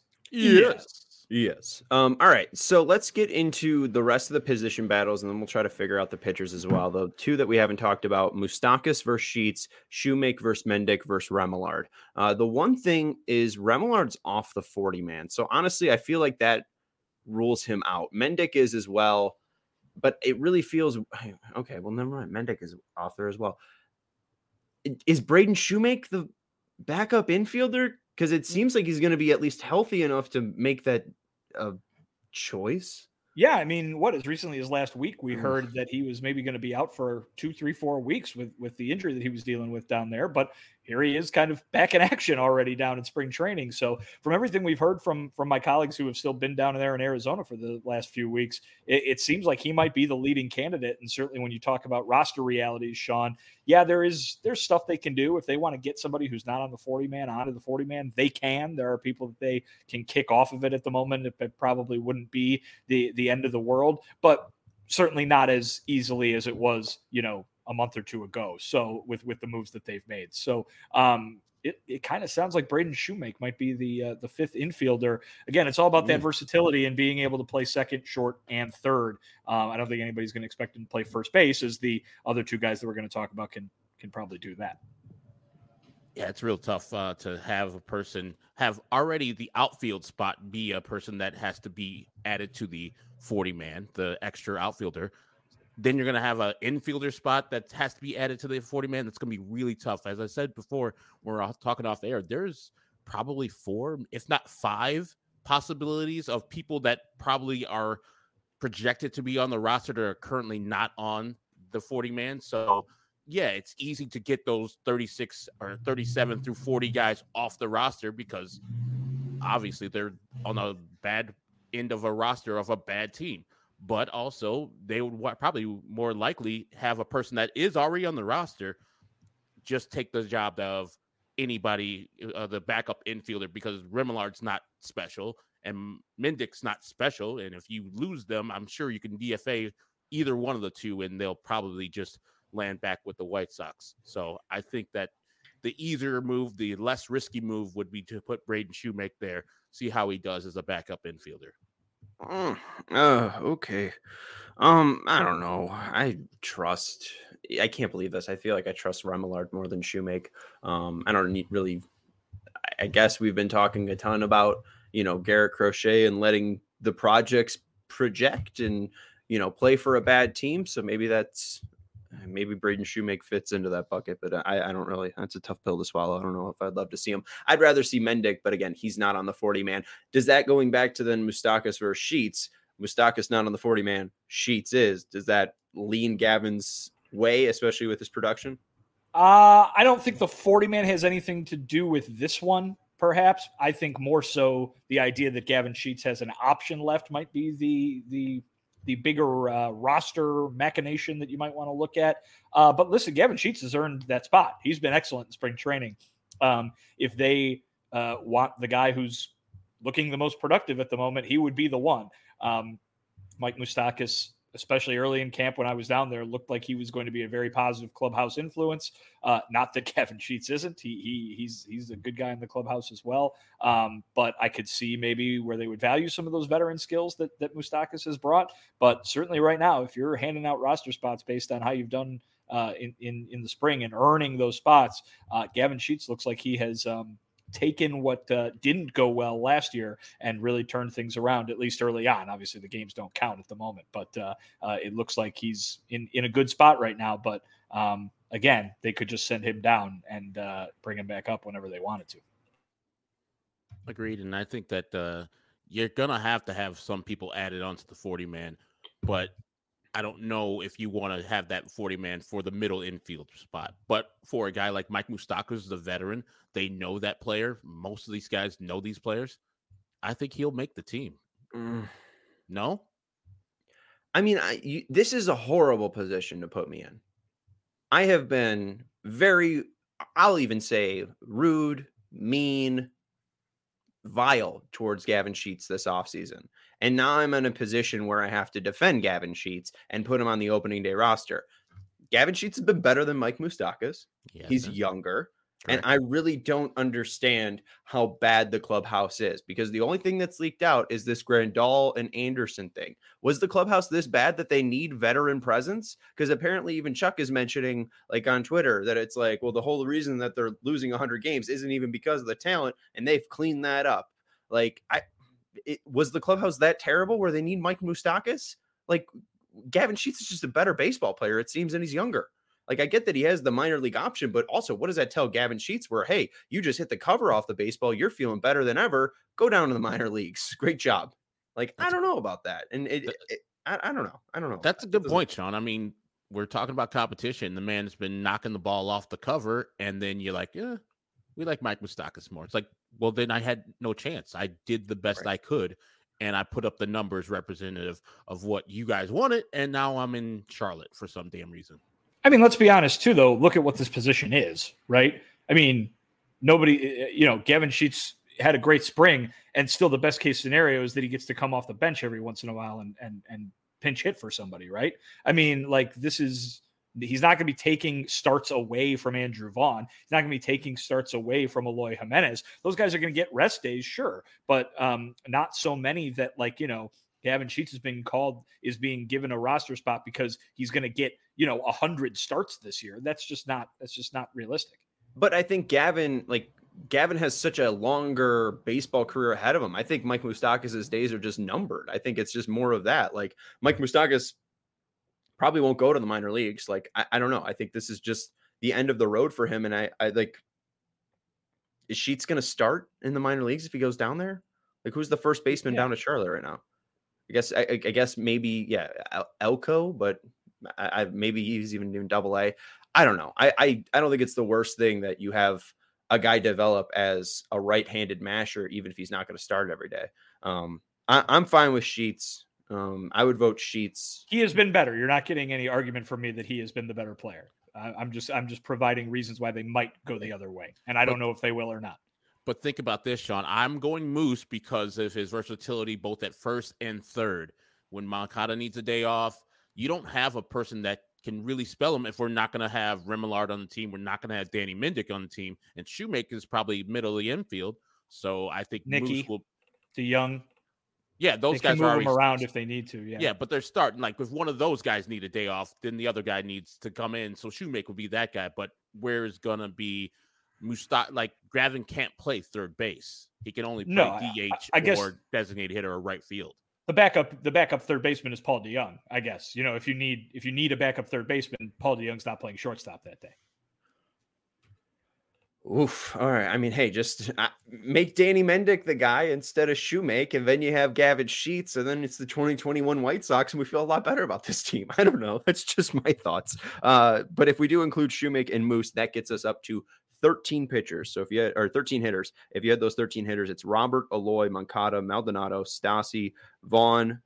Yes. All right. So let's get into the rest of the position battles, and then we'll try to figure out the pitchers as well. The two that we haven't talked about: Moustakas versus Sheets, Shoemake versus Mendick versus Remillard. The one thing is Remillard's off the 40-man. So honestly, I feel like that rules him out. Mendick is as well, but it really feels okay. Well, never mind. Mendick is off there as well. Is Braden Shoemake the backup infielder? Because it seems like he's going to be at least healthy enough to make that choice. Yeah, I mean, as recently as last week, we heard that he was maybe going to be out for 2, 3, 4 weeks with the injury that he was dealing with down there. But here he is kind of back in action already down in spring training. So from everything we've heard from my colleagues who have still been down there in Arizona for the last few weeks, it seems like he might be the leading candidate. And certainly when you talk about roster realities, Sean, yeah, there's stuff they can do. If they want to get somebody who's not on the 40-man onto the 40-man, they can. There are people that they can kick off of it at the moment. It probably wouldn't be the end of the world, but certainly not as easily as it was, a month or two ago. So with the moves that they've made. So it kind of sounds like Braden Shoemake might be the fifth infielder. Again, it's all about that versatility and being able to play second, short, and third. I don't think anybody's going to expect him to play first base, as the other two guys that we're going to talk about can probably do that. Yeah, it's real tough to have a person have already the outfield spot be a person that has to be added to the 40-man, the extra outfielder. Then you're going to have an infielder spot that has to be added to the 40-man. That's going to be really tough. As I said before, we're talking off air, there's probably 4, if not 5 possibilities of people that probably are projected to be on the roster that are currently not on the 40-man. So, yeah, it's easy to get those 36 or 37 through 40 guys off the roster because obviously they're on a bad end of a roster of a bad team. But also they would probably more likely have a person that is already on the roster just take the job of anybody, the backup infielder, because Remillard's not special and Mendick's not special. And if you lose them, I'm sure you can DFA either one of the two and they'll probably just land back with the White Sox. So I think that the easier move, the less risky move would be to put Braden Shoemake there, see how he does as a backup infielder. Okay. I don't know. I can't believe this. I feel like I trust Remillard more than Shoemake. I don't need really, I guess we've been talking a ton about, Garrett Crochet and letting the projects project and, play for a bad team. So maybe Braden Shoemake fits into that bucket, but I don't really, that's a tough pill to swallow. I don't know if I'd love to see him. I'd rather see Mendick, but again, he's not on the 40-man. Does that, going back to then Moustakas versus Sheets, Moustakas not on the 40-man, Sheets is. Does that lean Gavin's way, especially with his production? I don't think the 40-man has anything to do with this one, perhaps. I think more so the idea that Gavin Sheets has an option left might be the bigger roster machination that you might want to look at. But listen, Gavin Sheets has earned that spot. He's been excellent in spring training. If they want the guy who's looking the most productive at the moment, he would be the one. Mike Moustakas, especially early in camp when I was down there, looked like he was going to be a very positive clubhouse influence. Not that Gavin Sheets isn't. He's a good guy in the clubhouse as well. But I could see maybe where they would value some of those veteran skills that Moustakas has brought. But certainly right now, if you're handing out roster spots based on how you've done in the spring and earning those spots, Gavin Sheets looks like he has taken what didn't go well last year and really turned things around, at least early on. Obviously, the games don't count at the moment, but it looks like he's in a good spot right now. But again, they could just send him down and bring him back up whenever they wanted to. Agreed. And I think that you're going to have some people added onto the 40-man, but I don't know if you want to have that 40-man for the middle infield spot. But for a guy like Mike Moustakas, the veteran, they know that player. Most of these guys know these players. I think he'll make the team. No? I mean, this is a horrible position to put me in. I have been I'll even say rude, mean, vile towards Gavin Sheets this offseason. And now I'm in a position where I have to defend Gavin Sheets and put him on the opening day roster. Gavin Sheets has been better than Mike Moustakas. He's younger. Correct. And I really don't understand how bad the clubhouse is, because the only thing that's leaked out is this Grandal and Anderson thing. Was the clubhouse this bad that they need veteran presence? Because apparently even Chuck is mentioning, like on Twitter, that it's like, well, the whole reason that they're losing 100 games isn't even because of the talent, and they've cleaned that up. Like, was the clubhouse that terrible where they need Mike Moustakas? Like, Gavin Sheets is just a better baseball player, it seems, and he's younger. Like, I get that he has the minor league option, but also what does that tell Gavin Sheets where, hey, you just hit the cover off the baseball, you're feeling better than ever, go down to the minor leagues. Great job. Like, I don't know about that. And I don't know. I don't know. That's a good point, Sean. I mean, we're talking about competition. The man's been knocking the ball off the cover, and then you're like, yeah, we like Mike Moustakas more. It's like, well, then I had no chance. I did the best I could, and I put up the numbers representative of what you guys wanted, and now I'm in Charlotte for some damn reason. I mean, let's be honest, too, though. Look at what this position is, right? I mean, Gavin Sheets had a great spring, and still the best case scenario is that he gets to come off the bench every once in a while and pinch hit for somebody, right? I mean, like, he's not going to be taking starts away from Andrew Vaughn. He's not going to be taking starts away from Eloy Jimenez. Those guys are going to get rest days, sure, but not so many that, Gavin Sheets is being given a roster spot because he's going to get 100 starts this year. That's just not realistic. But I think Gavin has such a longer baseball career ahead of him. I think Mike Moustakas' days are just numbered. I think it's just more of that. Like, Mike Moustakas probably won't go to the minor leagues. Like, I don't know. I think this is just the end of the road for him. And I is Sheets going to start in the minor leagues if he goes down there? Like, who's the first baseman down at Charlotte right now? I guess maybe, Elko, but maybe he's even doing AA. I don't know. I don't think it's the worst thing that you have a guy develop as a right-handed masher, even if he's not going to start every day. I'm fine with Sheets. I would vote Sheets. He has been better. You're not getting any argument from me that he has been the better player. I'm just providing reasons why they might go the other way, and I don't know if they will or not. But think about this, Sean. I'm going Moose because of his versatility both at first and third. When Moncada needs a day off, you don't have a person that can really spell him. If we're not going to have Remillard on the team, we're not going to have Danny Mendick on the team, and Shoemaker is probably middle of the infield. So I think Nicky, Moose will. DeYoung. Yeah, those guys move are them around if they need to. Yeah, but they're starting. Like, if one of those guys need a day off, then the other guy needs to come in. So Shoemaker would be that guy. But where is going to be Gavin can't play third base. He can only play DH or designated hitter or right field. The backup third baseman is Paul DeYoung, I guess. If you need a backup third baseman, Paul DeYoung's not playing shortstop that day. Oof. All right. I mean, hey, just make Danny Mendick the guy instead of Shoemake, and then you have Gavin Sheets, and then it's the 2021 White Sox, and we feel a lot better about this team. I don't know. That's just my thoughts. But if we do include Shoemake and Moose, that gets us up to 13 pitchers. So if you had, or 13 hitters, if you had those 13 hitters, it's Robert, Aloy, Moncada, Maldonado, Vaughn,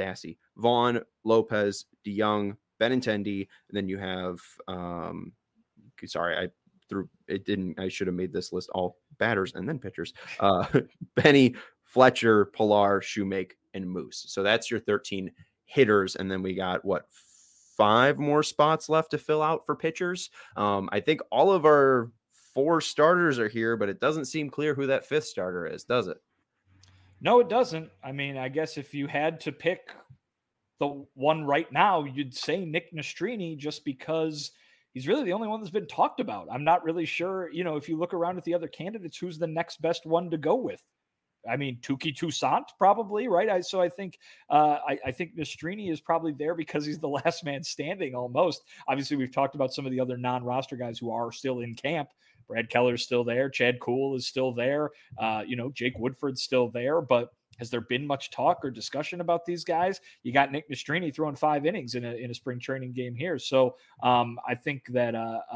Lopez, DeYoung, Benintendi, and then you have, sorry, I should have made this list all batters and then pitchers. Benny, Fletcher, Pilar, Shoemake, and Moose. So that's your 13 hitters. And then we got 5 more spots left to fill out for pitchers. I think all of our 4 starters are here, but it doesn't seem clear who that 5th starter is, does it? No, it doesn't. I mean, I guess if you had to pick the one right now, you'd say Nick Nastrini, just because he's really the only one that's been talked about. I'm not really sure, if you look around at the other candidates, who's the next best one to go with? I mean, Touki Toussaint probably, right? I think Nastrini is probably there because he's the last man standing almost. Obviously, we've talked about some of the other non-roster guys who are still in camp. Brad Keller's still there. Chad Kuhl is still there. Jake Woodford's still there. But has there been much talk or discussion about these guys? You got Nick Nastrini throwing 5 innings in a spring training game here. So I think that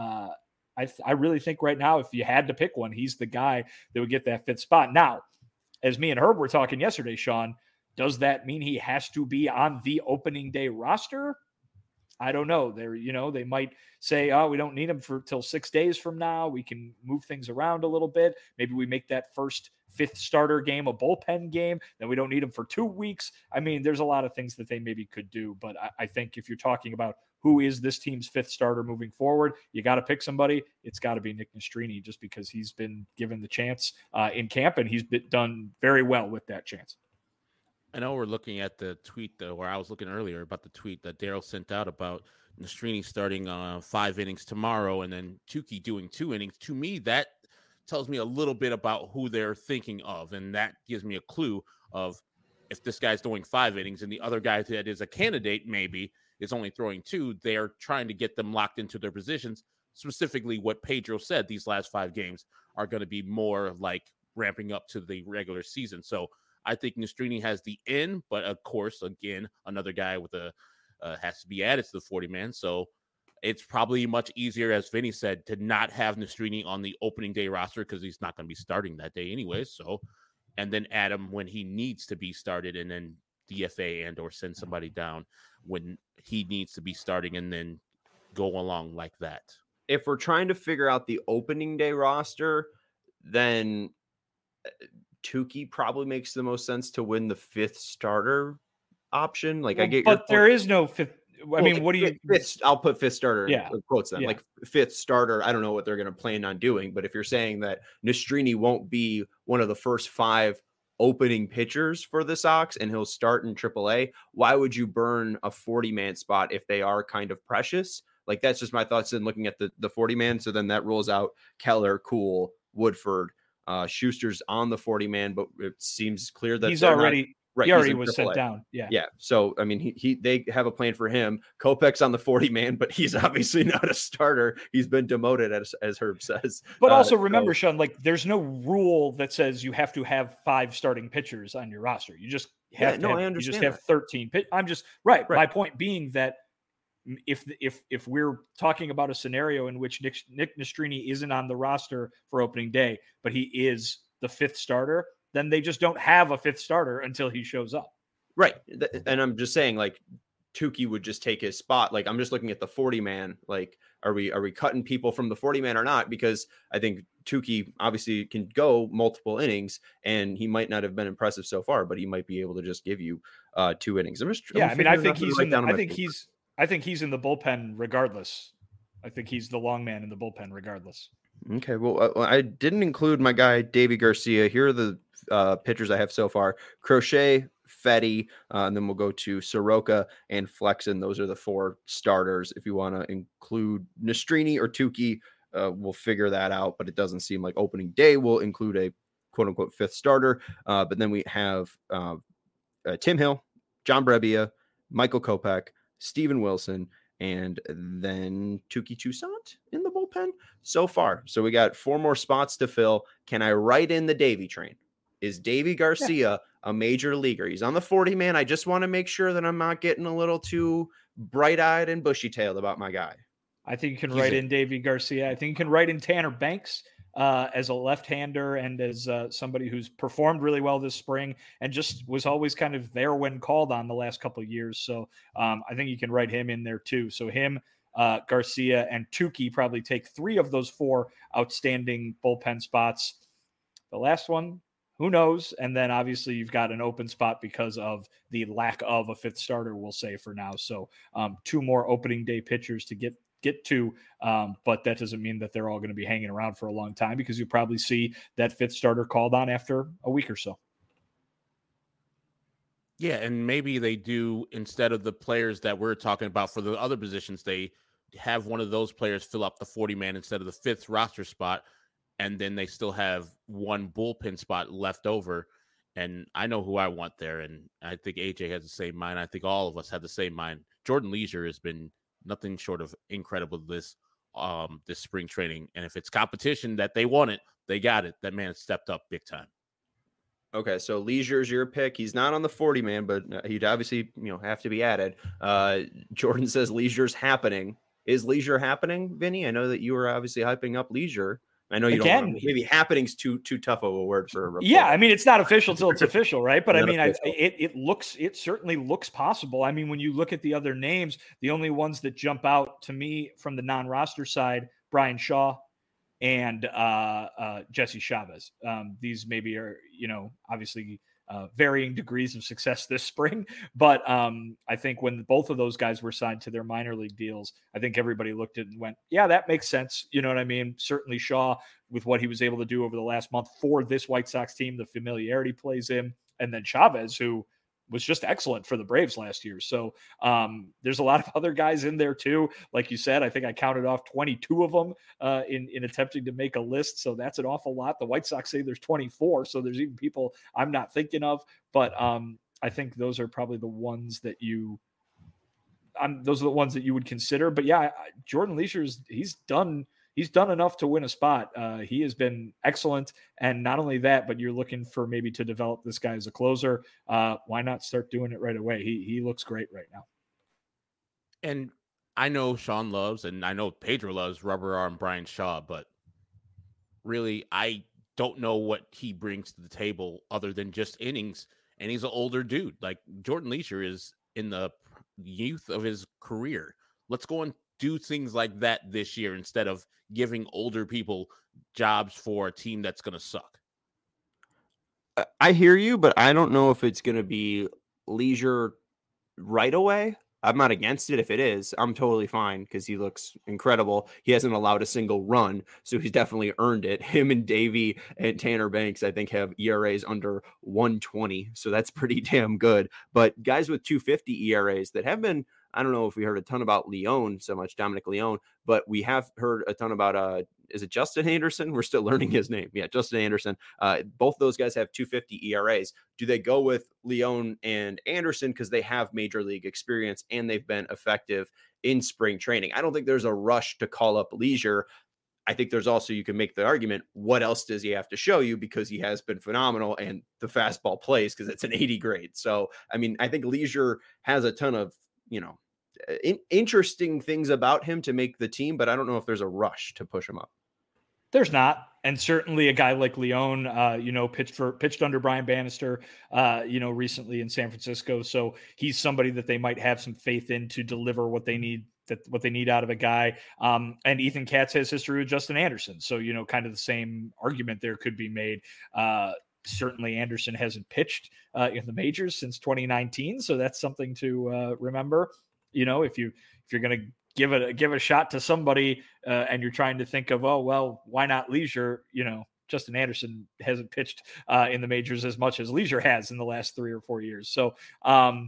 I really think right now, if you had to pick one, he's the guy that would get that 5th spot. Now, as me and Herb were talking yesterday, Sean, does that mean he has to be on the opening day roster? I don't know. They might say, oh, we don't need him till 6 days from now. We can move things around a little bit. Maybe we make that first 5th starter game a bullpen game. Then we don't need him for 2 weeks. I mean, there's a lot of things that they maybe could do. But I think if you're talking about who is this team's 5th starter moving forward, you got to pick somebody. It's got to be Nick Nastrini, just because he's been given the chance in camp, and he's done very well with that chance. I know we're looking at the tweet, though, where I was looking earlier about the tweet that Daryl sent out about Nastrini starting 5 innings tomorrow and then Touki doing 2 innings. To me, that tells me a little bit about who they're thinking of, and that gives me a clue of if this guy's doing 5 innings and the other guy that is a candidate maybe is only throwing 2, they're trying to get them locked into their positions. Specifically, what Pedro said, these last 5 games are going to be more like ramping up to the regular season. So I think Nastrini has the in, but of course, again, another guy with has to be added to the 40-man. So it's probably much easier, as Vinny said, to not have Nastrini on the opening day roster because he's not going to be starting that day anyways. So, and then add him when he needs to be started, and then DFA and or send somebody down when he needs to be starting, and then go along like that. If we're trying to figure out the opening day roster, then Touki probably makes the most sense to win the 5th starter option. Like, I get, but there is no 5th. I mean, what do you? 5th, I'll put 5th starter. Yeah, in quotes then. Yeah. Like 5th starter. I don't know what they're going to plan on doing, but if you're saying that Nastrini won't be one of the first 5 opening pitchers for the Sox and he'll start in AAA, why would you burn a 40-man spot if they are kind of precious? Like, that's just my thoughts in looking at the 40-man. So then that rules out Keller, Kuhl, Woodford. Schuster's on the 40-man, but it seems clear that he's already right. He already was sent down. Yeah. So I mean, they have a plan for him. Kopech's on the 40-man, but he's obviously not a starter. He's been demoted, as Herb says. But also remember, Sean, like, there's no rule that says you have to have 5 starting pitchers on your roster. You just have to. I understand. You just have 13. I'm just right. My point being that if we're talking about a scenario in which Nick Nastrini isn't on the roster for opening day, but he is the 5th starter, then they just don't have a 5th starter until he shows up. Right. And I'm just saying, like, Touki would just take his spot. Like, I'm just looking at the 40-man. Like, are we cutting people from the 40-man or not? Because I think Touki obviously can go multiple innings, and he might not have been impressive so far, but he might be able to just give you 2 innings. I think he's in the bullpen regardless. I think he's the long man in the bullpen regardless. Okay, well, I didn't include my guy, Davy Garcia. Here are the pitchers I have so far. Crochet, Fetty, and then we'll go to Soroka and Flexen. Those are the 4 starters. If you want to include Nastrini or Touki, we'll figure that out, but it doesn't seem like opening day will include a quote-unquote 5th starter. But then we have Tim Hill, John Brebbia, Michael Kopech, Steven Wilson, and then Touki Toussaint in the bullpen. bullpen so far. So we got 4 more spots to fill. Can I write in the Davy train? Is Davy Garcia a major leaguer? He's on the 40-man. I just want to make sure that I'm not getting a little too bright-eyed and bushy-tailed about my guy. I think you can write in Davy Garcia. I think you can write in Tanner Banks as a left-hander and as somebody who's performed really well this spring and just was always kind of there when called on the last couple of years. So I think you can write him in there too. So him, Garcia, and Tukey probably take 3 of those 4 outstanding bullpen spots. The last one, who knows? And then obviously you've got an open spot because of the lack of a 5th starter, we'll say for now. So 2 more opening day pitchers to get to, but that doesn't mean that they're all going to be hanging around for a long time because you'll probably see that 5th starter called on after a week or so. Yeah, and maybe they do, instead of the players that we're talking about for the other positions, they have one of those players fill up the 40-man instead of the 5th roster spot, and then they still have 1 bullpen spot left over. And I know who I want there, and I think AJ has the same mind. I think all of us have the same mind. Jordan Leisure has been nothing short of incredible this spring training. And if it's competition that they want it, they got it. That man has stepped up big time. Okay, so Leisure's your pick. He's not on the 40-man, but he'd obviously have to be added. Jordan says Leisure's happening. Is Leisure happening, Vinny? I know that you were obviously hyping up Leisure. I know you don't want, maybe happening's too tough of a word for a report. Yeah, I mean, it's not official till it's official, right? But I mean, it certainly looks possible. I mean, when you look at the other names, the only ones that jump out to me from the non-roster side, Brian Shaw and Jesse Chavez. These maybe are, obviously varying degrees of success this spring. But I think when both of those guys were signed to their minor league deals, I think everybody looked at it and went, yeah, that makes sense. You know what I mean? Certainly Shaw, with what he was able to do over the last month for this White Sox team, the familiarity plays in. And then Chavez, who was just excellent for the Braves last year. So there's a lot of other guys in there too. Like you said, I think I counted off 22 of them in attempting to make a list. So that's an awful lot. The White Sox say there's 24. So there's even people I'm not thinking of, but I think those are probably the ones that those are the ones that you would consider. But yeah, Jordan Leisure, he's done enough to win a spot. He has been excellent. And not only that, but you're looking for maybe to develop this guy as a closer. Why not start doing it right away? He looks great right now. And I know Sean loves, and I know Pedro loves rubber arm Brian Shaw, but really, I don't know what he brings to the table other than just innings. And he's an older dude. Like Jordan Leisure is in the youth of his career. Let's go and do things like that this year instead of giving older people jobs for a team that's going to suck. I hear you, but I don't know if it's going to be Leisure right away. I'm not against it if it is. I'm totally fine because he looks incredible. He hasn't allowed a single run, so he's definitely earned it. Him and Davey and Tanner Banks, I think, have ERAs under 120, so that's pretty damn good. But guys with 250 ERAs that have been, I don't know if we heard a ton about Leone so much, Dominic Leone, but we have heard a ton about, is it Justin Anderson? We're still learning his name. Yeah, Justin Anderson. Both those guys have 250 ERAs. Do they go with Leone and Anderson because they have major league experience and they've been effective in spring training? I don't think there's a rush to call up Leisure. I think there's also, you can make the argument, what else does he have to show you, because he has been phenomenal and the fastball plays because it's an 80 grade. So, I mean, I think Leisure has a ton of, interesting things about him to make the team, but I don't know if there's a rush to push him up. There's not. And certainly a guy like Leone, pitched under Brian Bannister, recently in San Francisco. So he's somebody that they might have some faith in to deliver what they need out of a guy. And Ethan Katz has history with Justin Anderson. So, kind of the same argument there could be made. Certainly Anderson hasn't pitched in the majors since 2019. So that's something to remember. If you're going to give a shot to somebody and you're trying to think of, oh, well, why not Leisure? Justin Anderson hasn't pitched in the majors as much as Leisure has in the last 3 or 4 years. So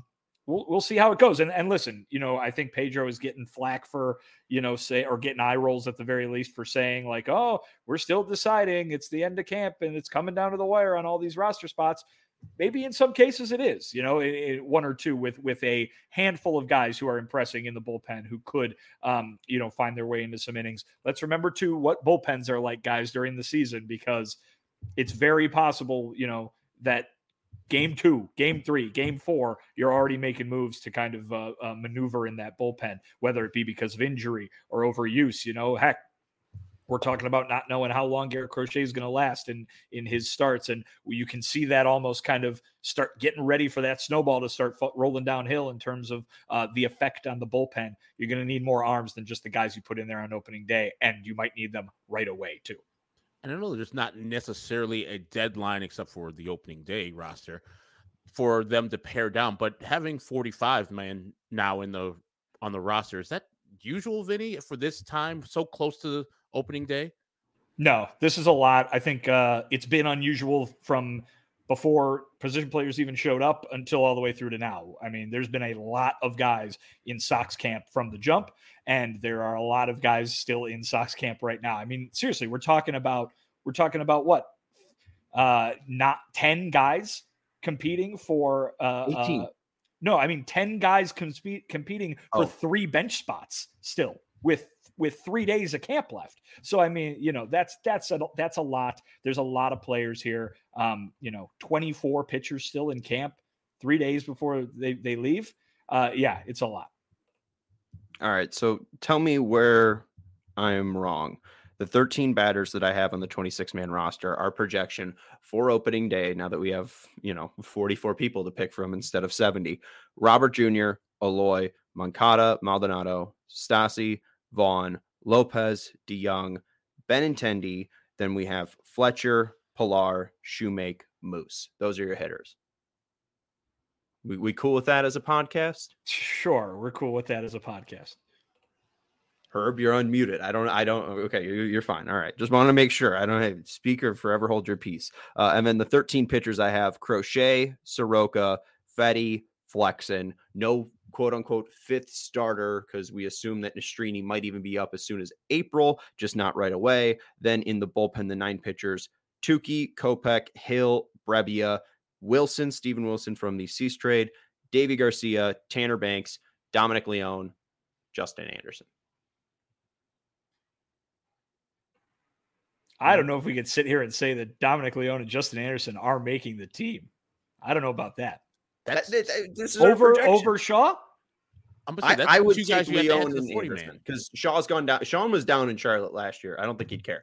we'll see how it goes. And listen, I think Pedro is getting flack for, or getting eye rolls at the very least for saying like, oh, we're still deciding, it's the end of camp and it's coming down to the wire on all these roster spots. Maybe in some cases it is, one or two with a handful of guys who are impressing in the bullpen who could, find their way into some innings. Let's remember too what bullpens are like, guys, during the season, because it's very possible, that game 2, game 3, game 4, you're already making moves to kind of maneuver in that bullpen, whether it be because of injury or overuse. Heck, we're talking about not knowing how long Garrett Crochet is going to last in his starts. And you can see that almost kind of start getting ready for that snowball to start rolling downhill in terms of the effect on the bullpen. You're going to need more arms than just the guys you put in there on opening day, and you might need them right away too. And I know there's not necessarily a deadline except for the opening day roster for them to pare down, but having 45 man now on the roster, is that usual, Vinny, for this time so close to the opening day? No, this is a lot. I think it's been unusual from before position players even showed up until all the way through to now. I mean, there's been a lot of guys in Sox camp from the jump, and there are a lot of guys still in Sox camp right now. I mean, seriously, we're talking about what? Not 10 guys competing for 18. No, I mean 10 guys competing for 3 bench spots still with 3 days of camp left. So I mean, that's a lot. There's a lot of players here. 24 pitchers still in camp 3 days before they leave. Yeah, it's a lot. All right, so tell me where I'm wrong. The 13 batters that I have on the 26-man roster, our projection for opening day, now that we have, 44 people to pick from instead of 70, Robert Jr., Eloy, Moncada, Maldonado, Stassi, Vaughn, Lopez, DeYoung, Benintendi. Then we have Fletcher, Pilar, Shoemake, Moose. Those are your hitters. We cool with that as a podcast? Sure, we're cool with that as a podcast. Herb, you're unmuted. I don't. Okay, you're fine. All right. Just want to make sure. I don't have speaker forever. Hold your peace. And then the 13 pitchers I have: Crochet, Soroka, Fetty, Flexen. No quote unquote fifth starter because we assume that Nastrini might even be up as soon as April, just not right away. Then in the bullpen, the 9 pitchers: Tukey, Kopech, Hill, Brebbia, Wilson, Steven Wilson from the Cease trade, Davy Garcia, Tanner Banks, Dominic Leone, Justin Anderson. I don't know if we could sit here and say that Dominic Leone and Justin Anderson are making the team. I don't know about that. This is over Shaw? I would take Leone and Anderson because Shaw's gone down. Sean was down in Charlotte last year. I don't think he'd care.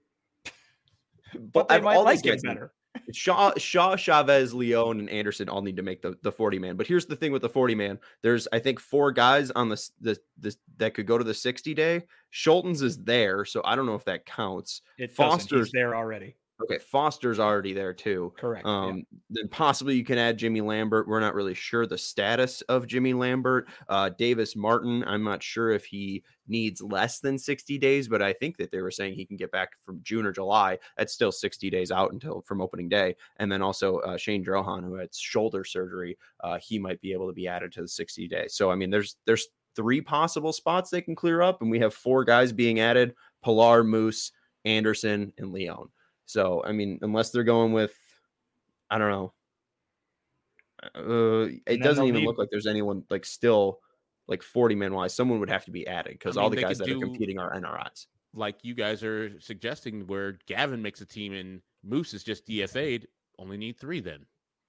But they might like it better. Shaw, Chavez, Leone, and Anderson all need to make the 40-man. But here's the thing with the 40-man. There's, I think, 4 guys on the that could go to the 60-day. Schultens is there, so I don't know if that counts. Foster's there already. Okay, Foster's already there too. Correct. Then possibly you can add Jimmy Lambert. We're not really sure the status of Jimmy Lambert. Davis Martin, I'm not sure if he needs less than 60 days, but I think that they were saying he can get back from June or July. That's still 60 days out until from opening day. And then also Shane Drohan, who had shoulder surgery, he might be able to be added to the 60 days. So I mean, there's 3 possible spots they can clear up, and we have 4 guys being added: Pilar, Moose, Anderson, and Leone. So, I mean, unless they're going with, I don't know. It doesn't even look like there's anyone like still like 40-man wise. Someone would have to be added because all the guys that are competing are NRIs. Like you guys are suggesting, where Gavin makes a team and Moose is just DFA'd, only need 3 then.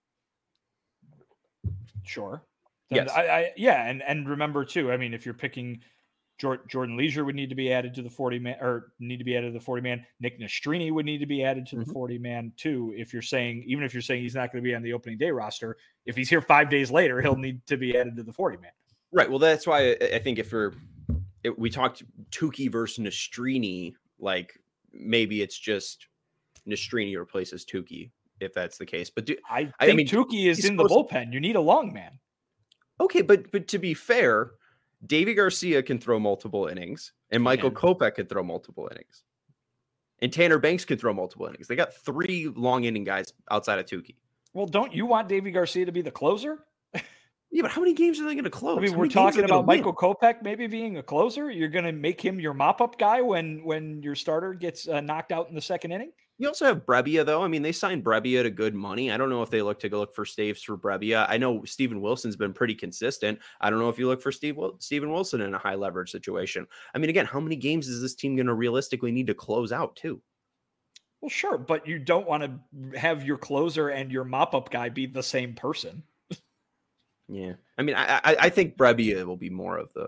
Sure. Yes. And remember too, I mean, if you're picking Jordan Leisure would need to be added to the 40-man, or need to be added to the 40-man. Nick Nastrini would need to be added to the 40-man too. If you're saying he's not going to be on the opening day roster, if he's here 5 days later, he'll need to be added to the 40-man. Right. Well, that's why I think if we talked Tukey versus Nastrini, like maybe it's just Nastrini replaces Tukey if that's the case. But I mean, Tukey is in the bullpen. You need a long man. Okay, but to be fair, Davy Garcia can throw multiple innings, and Michael Kopech could throw multiple innings, and Tanner Banks could throw multiple innings. They got 3 long inning guys outside of Tukey. Well, don't you want Davy Garcia to be the closer? Yeah, but how many games are they going to close? I mean, How we're many games are talking they gonna about win? Michael Kopech maybe being a closer. You're going to make him your mop-up guy when your starter gets knocked out in the second inning. You also have Brebbia, though. I mean, they signed Brebbia to good money. I don't know if they look to go look for staves for Brebbia. I know Steven Wilson's been pretty consistent. I don't know if you look for Steven Wilson in a high leverage situation. I mean, again, how many games is this team going to realistically need to close out, too? Well, sure, but you don't want to have your closer and your mop-up guy be the same person. Yeah. I mean, I think Brebbia will be more of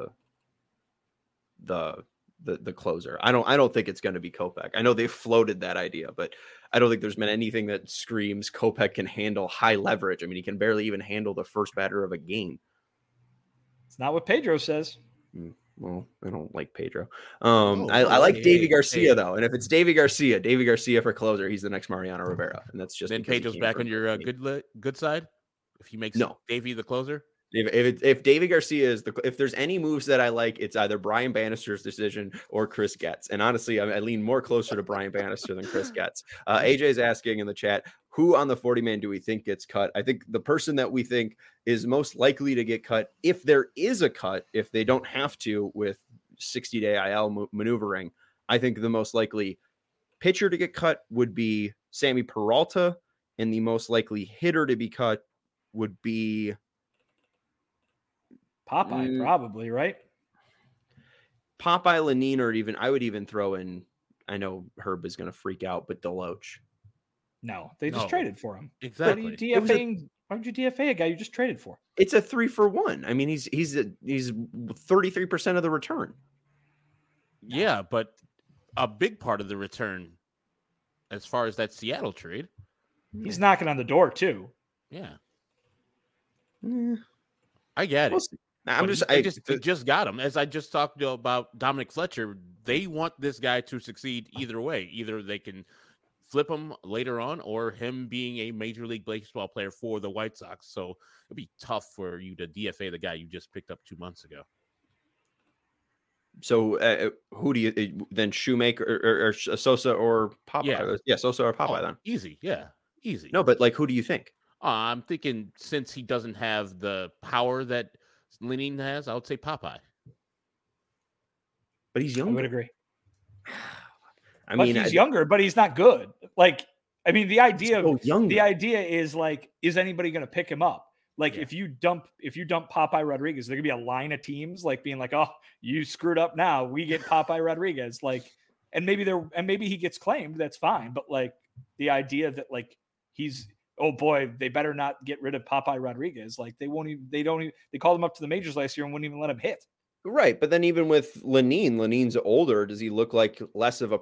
the closer. I don't think it's going to be Kopech. I know they floated that idea, but I don't think there's been anything that screams Kopech can handle high leverage. I mean, he can barely even handle the first batter of a game. It's not what Pedro says. Well, I don't like Pedro. Whoa, I like Davy Garcia hey. though, and if it's Davy Garcia for closer, he's the next Mariano Rivera, and that's just Then Pedro's back on your good side. If he makes Davy the closer. If Davy Garcia is if there's any moves that I like, it's either Brian Bannister's decision or Chris Getz. And honestly, I lean more closer to Brian Bannister than Chris Getz. AJ's asking in the chat, who on the 40-man do we think gets cut? I think the person that we think is most likely to get cut, if there is a cut, if they don't have to with 60-day IL maneuvering, I think the most likely pitcher to get cut would be Sammy Peralta, and the most likely hitter to be cut would be Popeye, probably, right? Popeye, Lenine, or even I would even throw in. I know Herb is going to freak out, but Deloach. No, they just traded for him. Exactly. Why would you DFA a guy you just traded for? It's a 3-for-1. I mean, he's 33% of the return. Yeah, but a big part of the return, as far as that Seattle trade, he's knocking on the door too. Yeah, I get it. They just got him. As I just talked about Dominic Fletcher, they want this guy to succeed either way. Either they can flip him later on, or him being a Major League Baseball player for the White Sox. So it'd be tough for you to DFA the guy you just picked up 2 months ago. So who do you then? Shoemaker or Sosa or Popeye? Yeah, Sosa or Popeye then. Easy, yeah, easy. No, but who do you think? I'm thinking since he doesn't have the power that Lenine has, I would say Popeye. But he's younger. I would agree. He's younger, but he's not good. The idea is is anybody going to pick him up? If you dump Popeye Rodriguez, there could be a line of teams being oh, you screwed up now. We get Popeye Rodriguez. And maybe he gets claimed. That's fine. But the idea that he's, oh boy, they better not get rid of Popeye Rodriguez. They called him up to the majors last year and wouldn't even let him hit. Right. But then even with Lenine's older. Does he look like less of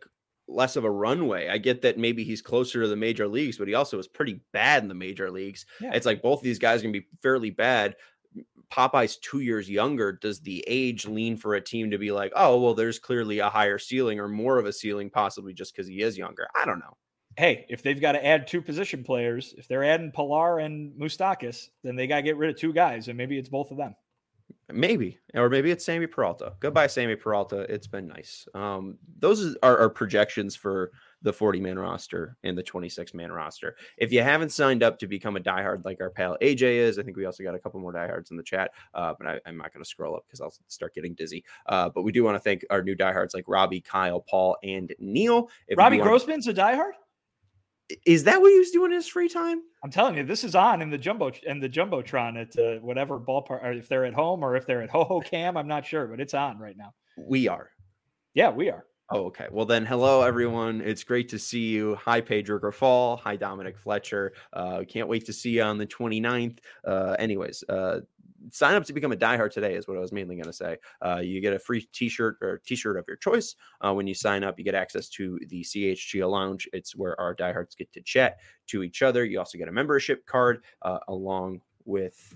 a runway? I get that maybe he's closer to the major leagues, but he also was pretty bad in the major leagues. Yeah. It's both of these guys are going to be fairly bad. Popeye's 2 years younger. Does the age lean for a team to be oh, well, there's clearly a higher ceiling or more of a ceiling, possibly just because he is younger? I don't know. Hey, if they've got to add 2 position players, if they're adding Pilar and Moustakas, then they got to get rid of 2 guys, and maybe it's both of them. Maybe it's Sammy Peralta. Goodbye, Sammy Peralta. It's been nice. Those are projections for the 40-man roster and the 26-man roster. If you haven't signed up to become a diehard like our pal AJ is, I think we also got a couple more diehards in the chat, but I'm not going to scroll up because I'll start getting dizzy. But we do want to thank our new diehards like Robbie, Kyle, Paul, and Neil. Robbie Grossman's a diehard? Is that what he was doing in his free time? I'm telling you, this is on in the Jumbotron at whatever ballpark, or if they're at home or if they're at Ho-Ho-Cam, I'm not sure, but it's on right now. We are. Yeah, we are. Oh, okay. Well, then, hello, everyone. It's great to see you. Hi, Pedro Grafal. Hi, Dominic Fletcher. Can't wait to see you on the 29th. Anyways, sign up to become a diehard today is what I was mainly going to say. You get a free t-shirt or t-shirt of your choice. When you sign up, you get access to the CHGO Lounge. It's where our diehards get to chat to each other. You also get a membership card along with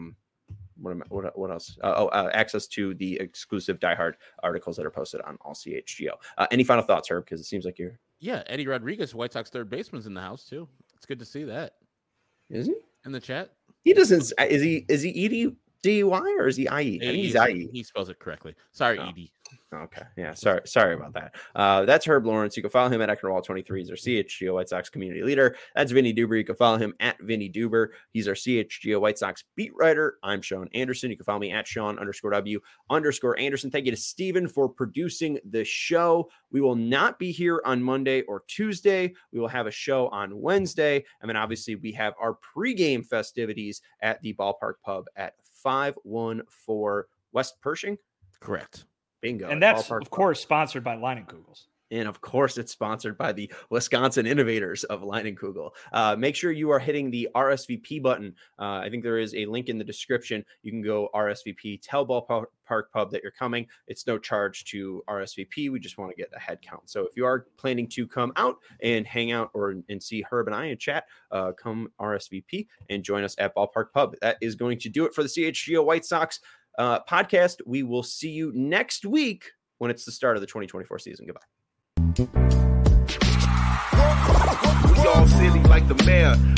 what else? Access to the exclusive diehard articles that are posted on all CHGO. Any final thoughts, Herb? Because it seems like you're... Yeah, Eddie Rodriguez, White Sox third baseman's in the house too. It's good to see that. Is he in the chat? He doesn't. Is he D-Y or is he I-E? I think he's I-E. He spells it correctly. Sorry, Oh. Edie. Okay. Yeah. Sorry about that. That's Herb Lawrence. You can follow him at Ecknerwall23. He's our CHGO White Sox community leader. That's Vinny Duber. You can follow him at Vinny Duber. He's our CHGO White Sox beat writer. I'm Sean Anderson. You can follow me at Sean_W_Anderson. Thank you to Steven for producing the show. We will not be here on Monday or Tuesday. We will have a show on Wednesday. And then obviously we have our pregame festivities at the Ballpark Pub at 514 West Pershing. Correct. Bingo. And that's, of course, sponsored by Leinenkugels. And of course, it's sponsored by the Wisconsin innovators of Leinenkugel. Make sure you are hitting the RSVP button. I think there is a link in the description. You can go RSVP, tell Ballpark Pub that you're coming. It's no charge to RSVP. We just want to get a head count. So if you are planning to come out and hang out and see Herb and I and chat, come RSVP and join us at Ballpark Pub. That is going to do it for the CHGO White Sox podcast. We will see you next week when it's the start of the 2024 season. Goodbye. We all silly like the mayor.